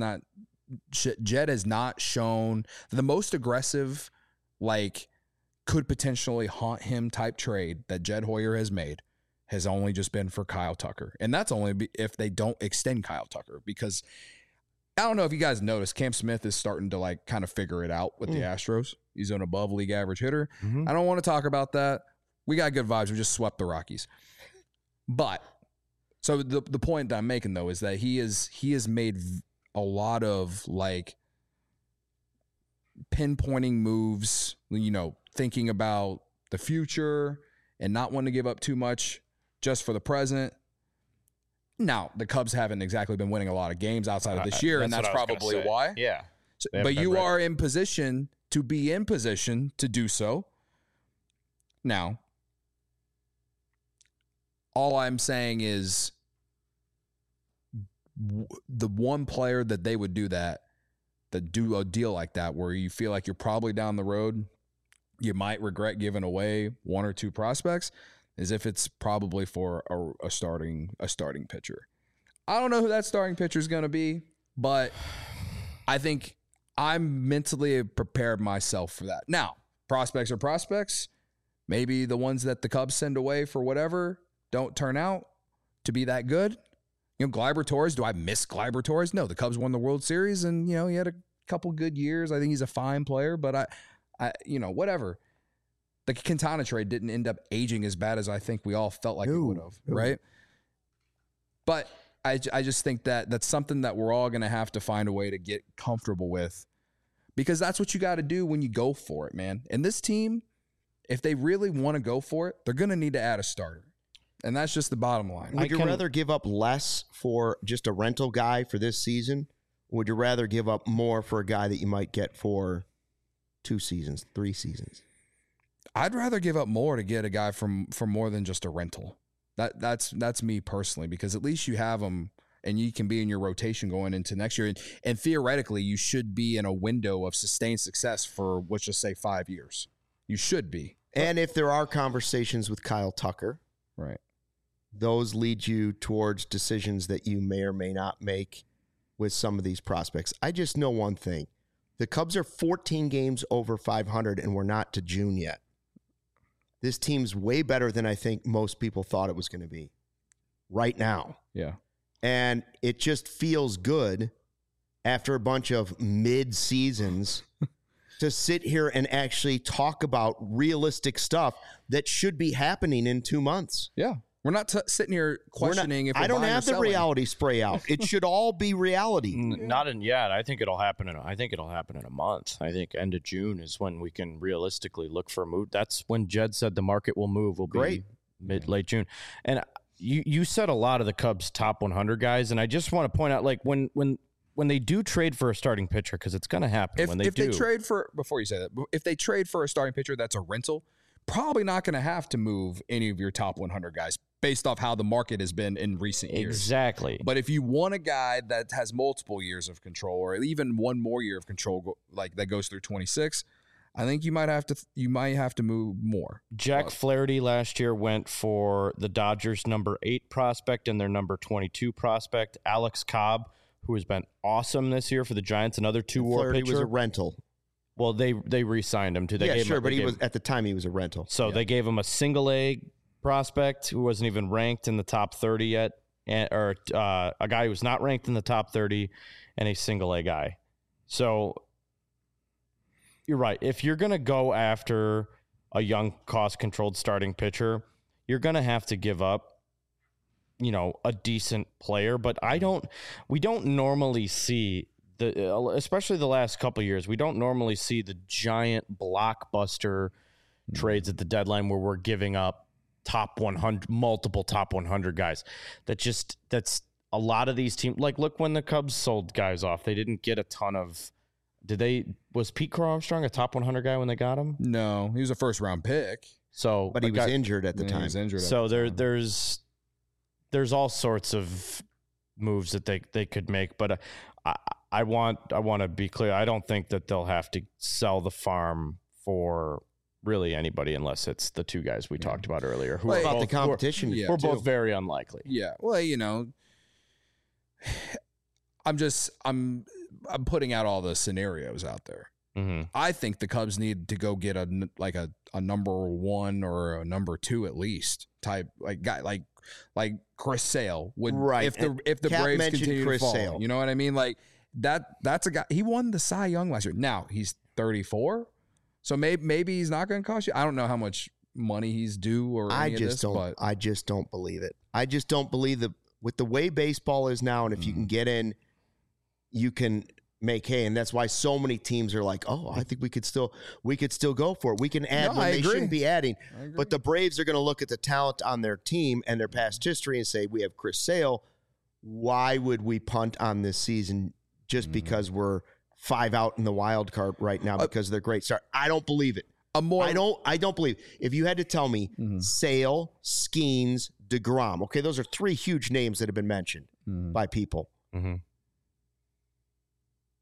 has not shown the most aggressive, like could potentially haunt him type trade that Jed Hoyer has made has only just been for Kyle Tucker. And that's only if they don't extend Kyle Tucker, because I don't know if you guys noticed, Cam Smith is starting to like kind of figure it out with the Astros. He's an above league average hitter. I don't want to talk about that. We got good vibes. We just swept the Rockies. But so the point that I'm making though is that he has made a lot of like pinpointing moves, you know, thinking about the future and not wanting to give up too much just for the present. Now, the Cubs haven't exactly been winning a lot of games outside of this year, and that's probably why. Yeah. So, but you are in position to be in position to do so. Now, all I'm saying is the one player that they would do that that do a deal like that where you feel like you're probably down the road, you might regret giving away one or two prospects, is if it's probably for a starting pitcher. I don't know who that starting pitcher is going to be, but I think I'm mentally prepared myself for that. Now, prospects are prospects. Maybe the ones that the Cubs send away for whatever don't turn out to be that good. You know, Gleyber Torres, do I miss Gleyber Torres? No, the Cubs won the World Series and, you know, he had a couple good years. I think he's a fine player, but I you know, whatever. The Quintana trade didn't end up aging as bad as I think we all felt like it would have, right? But I just think that that's something that we're all going to have to find a way to get comfortable with, because that's what you got to do when you go for it, man. And this team, if they really want to go for it, they're going to need to add a starter. And that's just the bottom line. Would you rather give up less for just a rental guy for this season? Or would you rather give up more for a guy that you might get for 2 seasons, 3 seasons? I'd rather give up more to get a guy from more than just a rental. That's me personally, because at least you have him and you can be in your rotation going into next year. And theoretically, you should be in a window of sustained success for, let's just say, 5 years. You should be. And if there are conversations with Kyle Tucker, right, those lead you towards decisions that you may or may not make with some of these prospects. I just know one thing. The Cubs are 14 games over 500, and we're not to June yet. This team's way better than I think most people thought it was going to be right now. Yeah. And it just feels good after a bunch of mid-seasons to sit here and actually talk about realistic stuff that should be happening in 2 months. Yeah. We're not sitting here questioning if we're I don't buying or have the selling. reality spray out. It should all be reality. Not in yet. I think it'll happen in a month. I think end of June is when we can realistically look for a move. That's when Jed said the market will move. Will be late June. And you said a lot of the Cubs top 100 guys, and I just want to point out, like, when they do trade for a starting pitcher, because it's going to happen If they trade for, before you say that, if they trade for a starting pitcher that's a rental, probably not going to have to move any of your top 100 guys based off how the market has been in recent years. Exactly. But if you want a guy that has multiple years of control, or even one more year of control, like that goes through 26, I think you might have to move more. Jack Flaherty last year went for the Dodgers' number 8 prospect and their number 22 prospect. Alex Cobb, who has been awesome this year for the Giants, another 2-WAR pitcher. Flaherty was a rental. Well, they re-signed him too. But he was at the time he was a rental. So they gave him a single A prospect who wasn't even ranked in the top 30 yet, or a guy who was not ranked in the top 30, and a single A guy. So you're right. If you're going to go after a young, cost-controlled starting pitcher, you're going to have to give up, you know, a decent player. But we don't normally see especially the last couple of years, we don't normally see the giant blockbuster trades at the deadline where we're giving up multiple top 100 guys. That's a lot of these teams. Like, look, when the Cubs sold guys off, they didn't get a ton of. Was Pete Crow Armstrong a top 100 guy when they got him? No, he was a first round pick. So, but he was injured at the time. He was injured. So there's all sorts of moves that they could make, but I want to be clear. I don't think that they'll have to sell the farm for really anybody unless it's the 2 guys we talked about earlier. Who about both, the competition? We're both very unlikely. Yeah. Well, you know, I'm putting out all the scenarios out there. Mm-hmm. I think the Cubs need to go get a number 1 or a number 2 at least type, like guy like Chris Sale would, right. if the Cap Braves continue Chris to fall. Sale. You know what I mean? Like that's a guy. He won the Cy Young last year. Now he's 34, so maybe he's not going to cost you. I don't know how much money he's due or any of this, but I just don't believe it. I just don't believe that with the way baseball is now, and if you can get in, you can make hay, and that's why so many teams are like, oh, I think we could still go for it. We can add when they shouldn't be adding. But the Braves are going to look at the talent on their team and their past history and say, we have Chris Sale. Why would we punt on this season just because we're 5 out in the wild card right now because of their great start? I don't believe it. I don't believe it. If you had to tell me Sale, Skeens, DeGrom, okay, those are 3 huge names that have been mentioned by people. Mm-hmm.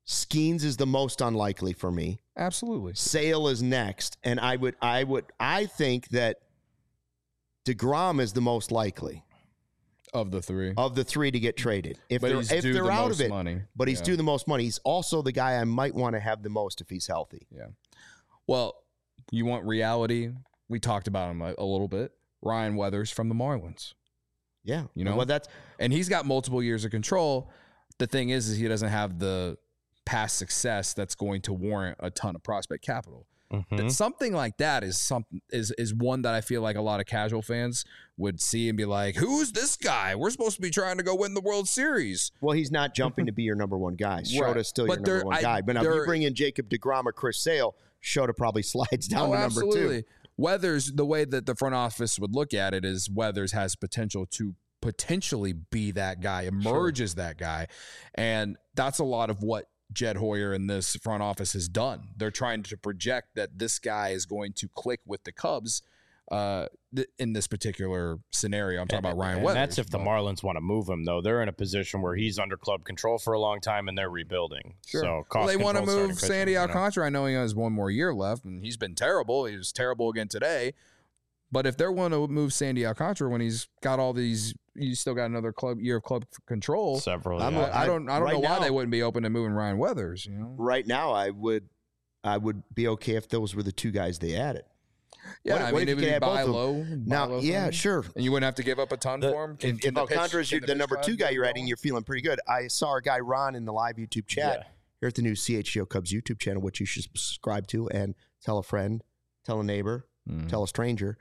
Skeens is the most unlikely for me. Absolutely. Sale is next, and I think that DeGrom is the most likely Of the three. to get traded. If But they're, he's if due they're the out most of it, money. but he's Yeah. due the most money. He's also the guy I might want to have the most if he's healthy. Yeah. Well, you want reality? We talked about him a little bit. Ryan Weathers from the Marlins. Yeah, You know? well, that's And he's got multiple years of control. The thing is he doesn't have the past success that's going to warrant a ton of prospect capital. That something like that is one that I feel like a lot of casual fans would see and be like, "Who's this guy? We're supposed to be trying to go win the World Series." well, he's not jumping to be your number one guy. Shota's still But your number one guy. But now if you bring in Jacob DeGrom or Chris Sale, Shota probably slides down to number two. Weathers, the way that the front office would look at it is Weathers has potential to potentially be that guy, emerge as that guy. And that's a lot of what Jed Hoyer and this front office has done. They're trying to project that this guy is going to click with the Cubs in this particular scenario. I'm talking about Ryan Weathers. That's if the Marlins want to move him, though. They're in a position where he's under club control for a long time, and they're rebuilding. Sure. So Well, they want to control move starting Sandy pitching, Alcantara. I know he has one more year left, and he's been terrible. He was terrible again today. But if they're willing to move Sandy Alcantara when he's got all these, he's still got another year of club control. Several. I'm yeah. I don't right know why now- they wouldn't be open to moving Ryan Weathers. You know, Right now, I would be okay if those were the two guys they added. yeah. What- I what mean, if it would you be could add both buy of them? low. Now, yeah, sure. and you wouldn't have to give up a ton for him. If Alcantara's the number two guy you're adding, you're feeling pretty good. I saw our guy Ron in the live YouTube chat Yeah. here at the new CHGO Cubs YouTube channel, which you should subscribe to and tell a friend, tell a neighbor, tell a stranger.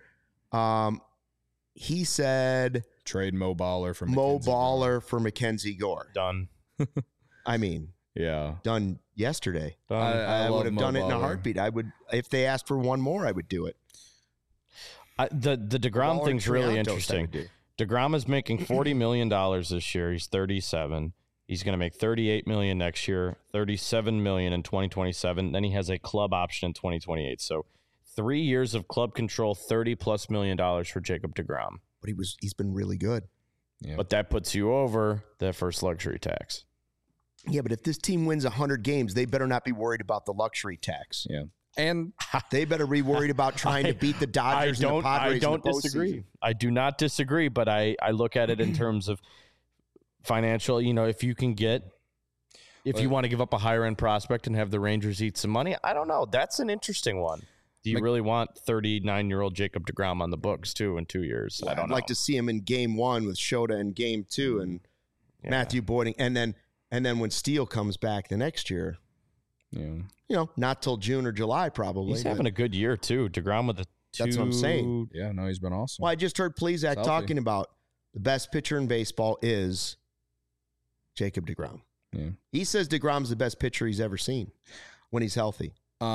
He said Trade Mo Baller for Mo Mackenzie Baller for Mackenzie Gore. Done. I mean, Yeah. done yesterday. Done. I love would have Mo done it in a Baller. heartbeat. I would, if they asked for one more, I would do it. The DeGrom Baller thing's really Triantos, I interesting. would do. DeGrom is making $40 million this year. He's 37. He's going to make $38 million next year, $37 million in 2027. Then he has a club option in 2028. So 3 years of club control, $30+ million for Jacob DeGrom. But he's been really good. Yeah. But that puts you over that first luxury tax. Yeah, but if this team wins 100 games, they better not be worried about the luxury tax. Yeah. And They better be worried about trying to beat the Dodgers and the Padres. I don't in the disagree. postseason. I do not disagree, but I look at it in terms of financial. You know, if you want to give up a higher end prospect and have the Rangers eat some money, I don't know. That's an interesting one. Do you really want 39-year-old Jacob DeGrom on the books too in 2 years? I don't I'd know. like to see him in game one with Shota in game two and Matthew Boyding. And then when Steele comes back the next year, not till June or July probably. He's having a good year too. DeGrom with That's what I'm saying. yeah, no, he's been awesome. Well, I just heard Plesac Healthy. talking about the best pitcher in baseball is Jacob DeGrom. Yeah. He says DeGrom's the best pitcher he's ever seen when he's healthy.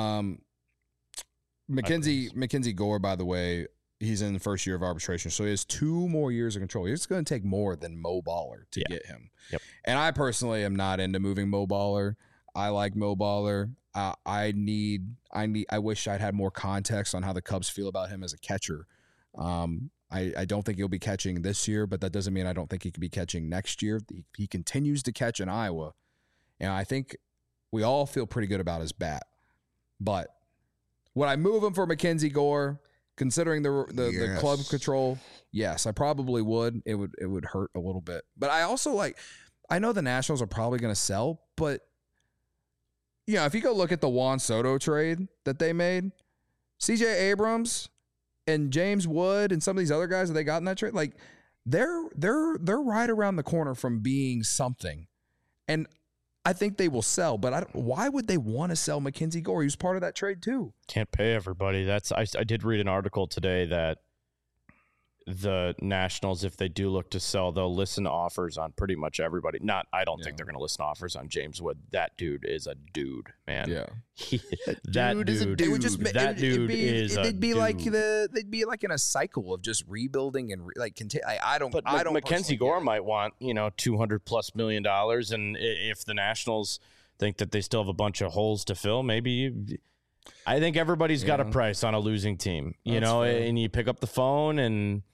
Mackenzie Gore, by the way, he's in the first year of arbitration, so he has 2 more years of control. It's going to take more than Mo Baller to get him. Yep. And I personally am not into moving Mo Baller. I like Mo Baller. I wish I'd had more context on how the Cubs feel about him as a catcher. I don't think he'll be catching this year, but that doesn't mean I don't think he could be catching next year. He continues to catch in Iowa, and I think we all feel pretty good about his bat. But would I move him for Mackenzie Gore, considering the club control? Yes, I probably would. It would hurt a little bit, but I also I know the Nationals are probably going to sell, but if you go look at the Juan Soto trade that they made, CJ Abrams and James Wood and some of these other guys that they got in that trade, they're right around the corner from being something, and I think they will sell. But why would they want to sell Mackenzie Gore? He was part of that trade too. Can't pay everybody. I did read an article today that the Nationals, if they do look to sell, they'll listen to offers on pretty much everybody. I don't think they're going to listen to offers on James Wood. That dude is a dude, man. Yeah, that dude is a dude. It would just That dude is a They'd be dude. they'd be like in a cycle of just rebuilding and I don't. But I don't. Mackenzie personally Gore get it. might want $200+ million, and if the Nationals think that they still have a bunch of holes to fill, maybe. I think everybody's got a price on a losing team, That's fair. and you pick up the phone and.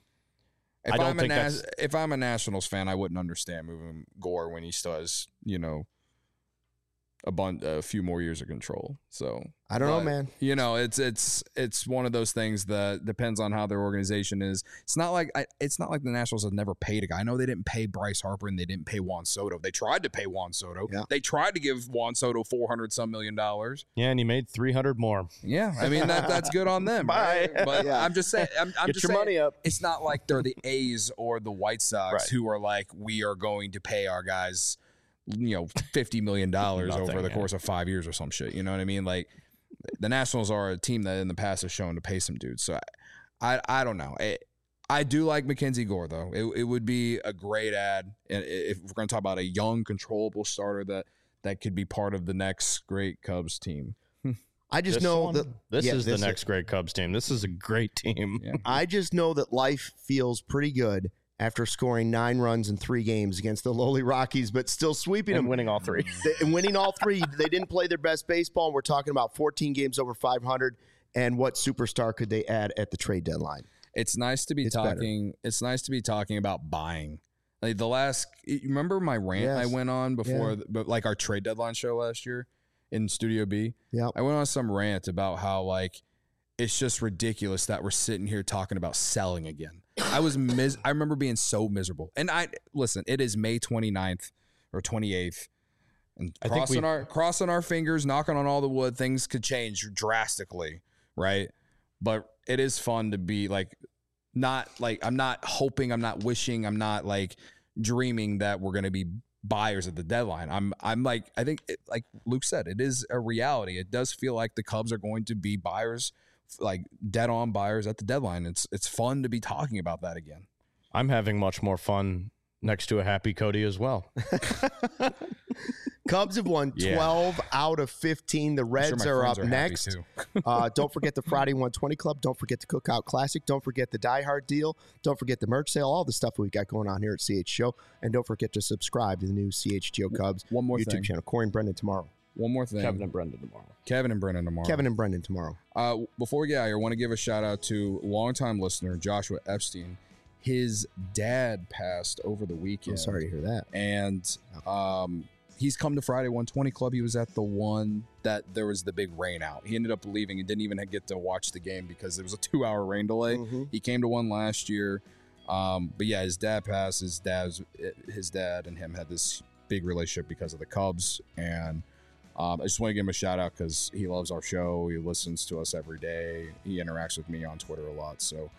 If I'm a Nationals fan, I wouldn't understand moving Gore when he still has a few more years of control. So I don't know, man. You know, it's one of those things that depends on how their organization is. It's not like the Nationals have never paid a guy. I know they didn't pay Bryce Harper and they didn't pay Juan Soto. They tried to pay Juan Soto. Yeah. They tried to give Juan Soto $400-some million. Yeah, and he made $300 more. Yeah, I mean that's good on them. Right? But yeah. I'm just saying, I'm Get just your saying, money up. It's not like they're the A's or the White Sox who are like, we are going to pay our guys, $50 million over the course of 5 years or some shit. You know what I mean? Like, the Nationals are a team that in the past has shown to pay some dudes. So I don't know. I do like Mackenzie Gore, though. It would be a great ad. And if we're going to talk about a young, controllable starter that could be part of the next great Cubs team. I just know that this is the next great Cubs team. This is a great team. Yeah. I just know that life feels pretty good after scoring 9 runs in 3 games against the lowly Rockies, but still sweeping them. Winning all 3. And winning all 3. They didn't play their best baseball, and we're talking about 14 games over 500, and what superstar could they add at the trade deadline? It's nice to be talking. It's nice to be talking about buying. Like you remember my rant I went on before, like our trade deadline show last year in Studio B? Yeah. I went on some rant about how, like, it's just ridiculous that we're sitting here talking about selling again. I remember being so miserable. And listen, it is May 29th or 28th. And crossing our fingers, knocking on all the wood, things could change drastically, right? But it is fun to be like, not like, I'm not hoping, I'm not wishing, I'm not like dreaming that we're going to be buyers at the deadline. I'm like, I think like Luke said, it is a reality. It does feel like the Cubs are going to be buyers, like dead on buyers at the deadline. It's fun to be talking about that again. I'm having much more fun next to a happy Cody as well. Cubs have won 12 out of 15. The Reds are up next. Don't forget the Friday 120 Club. Don't forget the Cookout Classic. Don't forget the Die Hard deal. Don't forget the merch sale. All the stuff we've got going on here at CH Show. And don't forget to subscribe to the new CHGO Cubs YouTube channel. Corey and Brendan tomorrow. One more thing. Kevin and Brendan tomorrow. Kevin and Brendan tomorrow. Before we get out here, I want to give a shout out to longtime listener Joshua Epstein. His dad passed over the weekend. I'm sorry to hear that. And he's come to Friday 120 Club. He was at the one that there was the big rain out. He ended up leaving and didn't even get to watch the game because there was a 2-hour rain delay. Mm-hmm. He came to one last year. But yeah, his dad passed. His dad and him had this big relationship because of the Cubs. And I just want to give him a shout out because he loves our show. He listens to us every day. He interacts with me on Twitter a lot. So,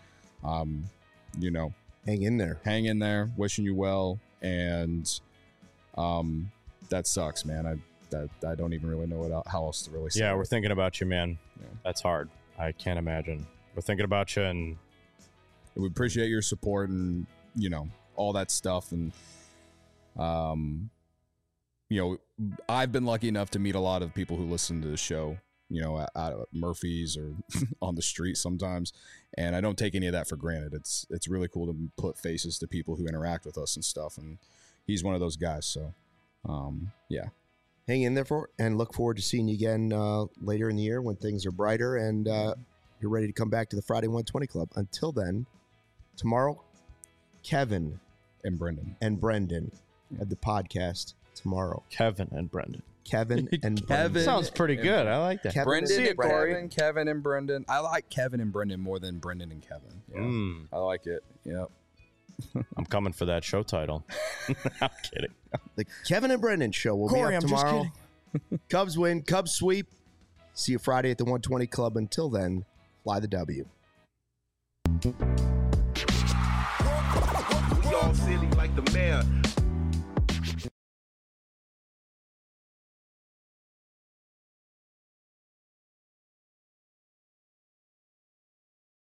hang in there. Wishing you well. And that sucks, man. I don't even really know how else to really say. Yeah, we're thinking about you, man. Yeah. That's hard. I can't imagine. We're thinking about you, and we appreciate your support and all that stuff. And I've been lucky enough to meet a lot of people who listen to the show, at Murphy's or on the street sometimes. And I don't take any of that for granted. It's really cool to put faces to people who interact with us and stuff. And he's one of those guys. So, yeah. Hang in there and look forward to seeing you again later in the year when things are brighter and you're ready to come back to the Friday 120 Club. Until then, tomorrow, Kevin and Brendan at the podcast tomorrow. Kevin and Brendan. Sounds pretty good. I like that. Kevin and Brendan. I like Kevin and Brendan more than Brendan and Kevin. Yeah. I like it. Yep. I'm coming for that show title. I'm kidding. The Kevin and Brendan show will be up tomorrow. Cubs win. Cubs sweep. See you Friday at the 120 Club. Until then, fly the W. We all silly like the mayor.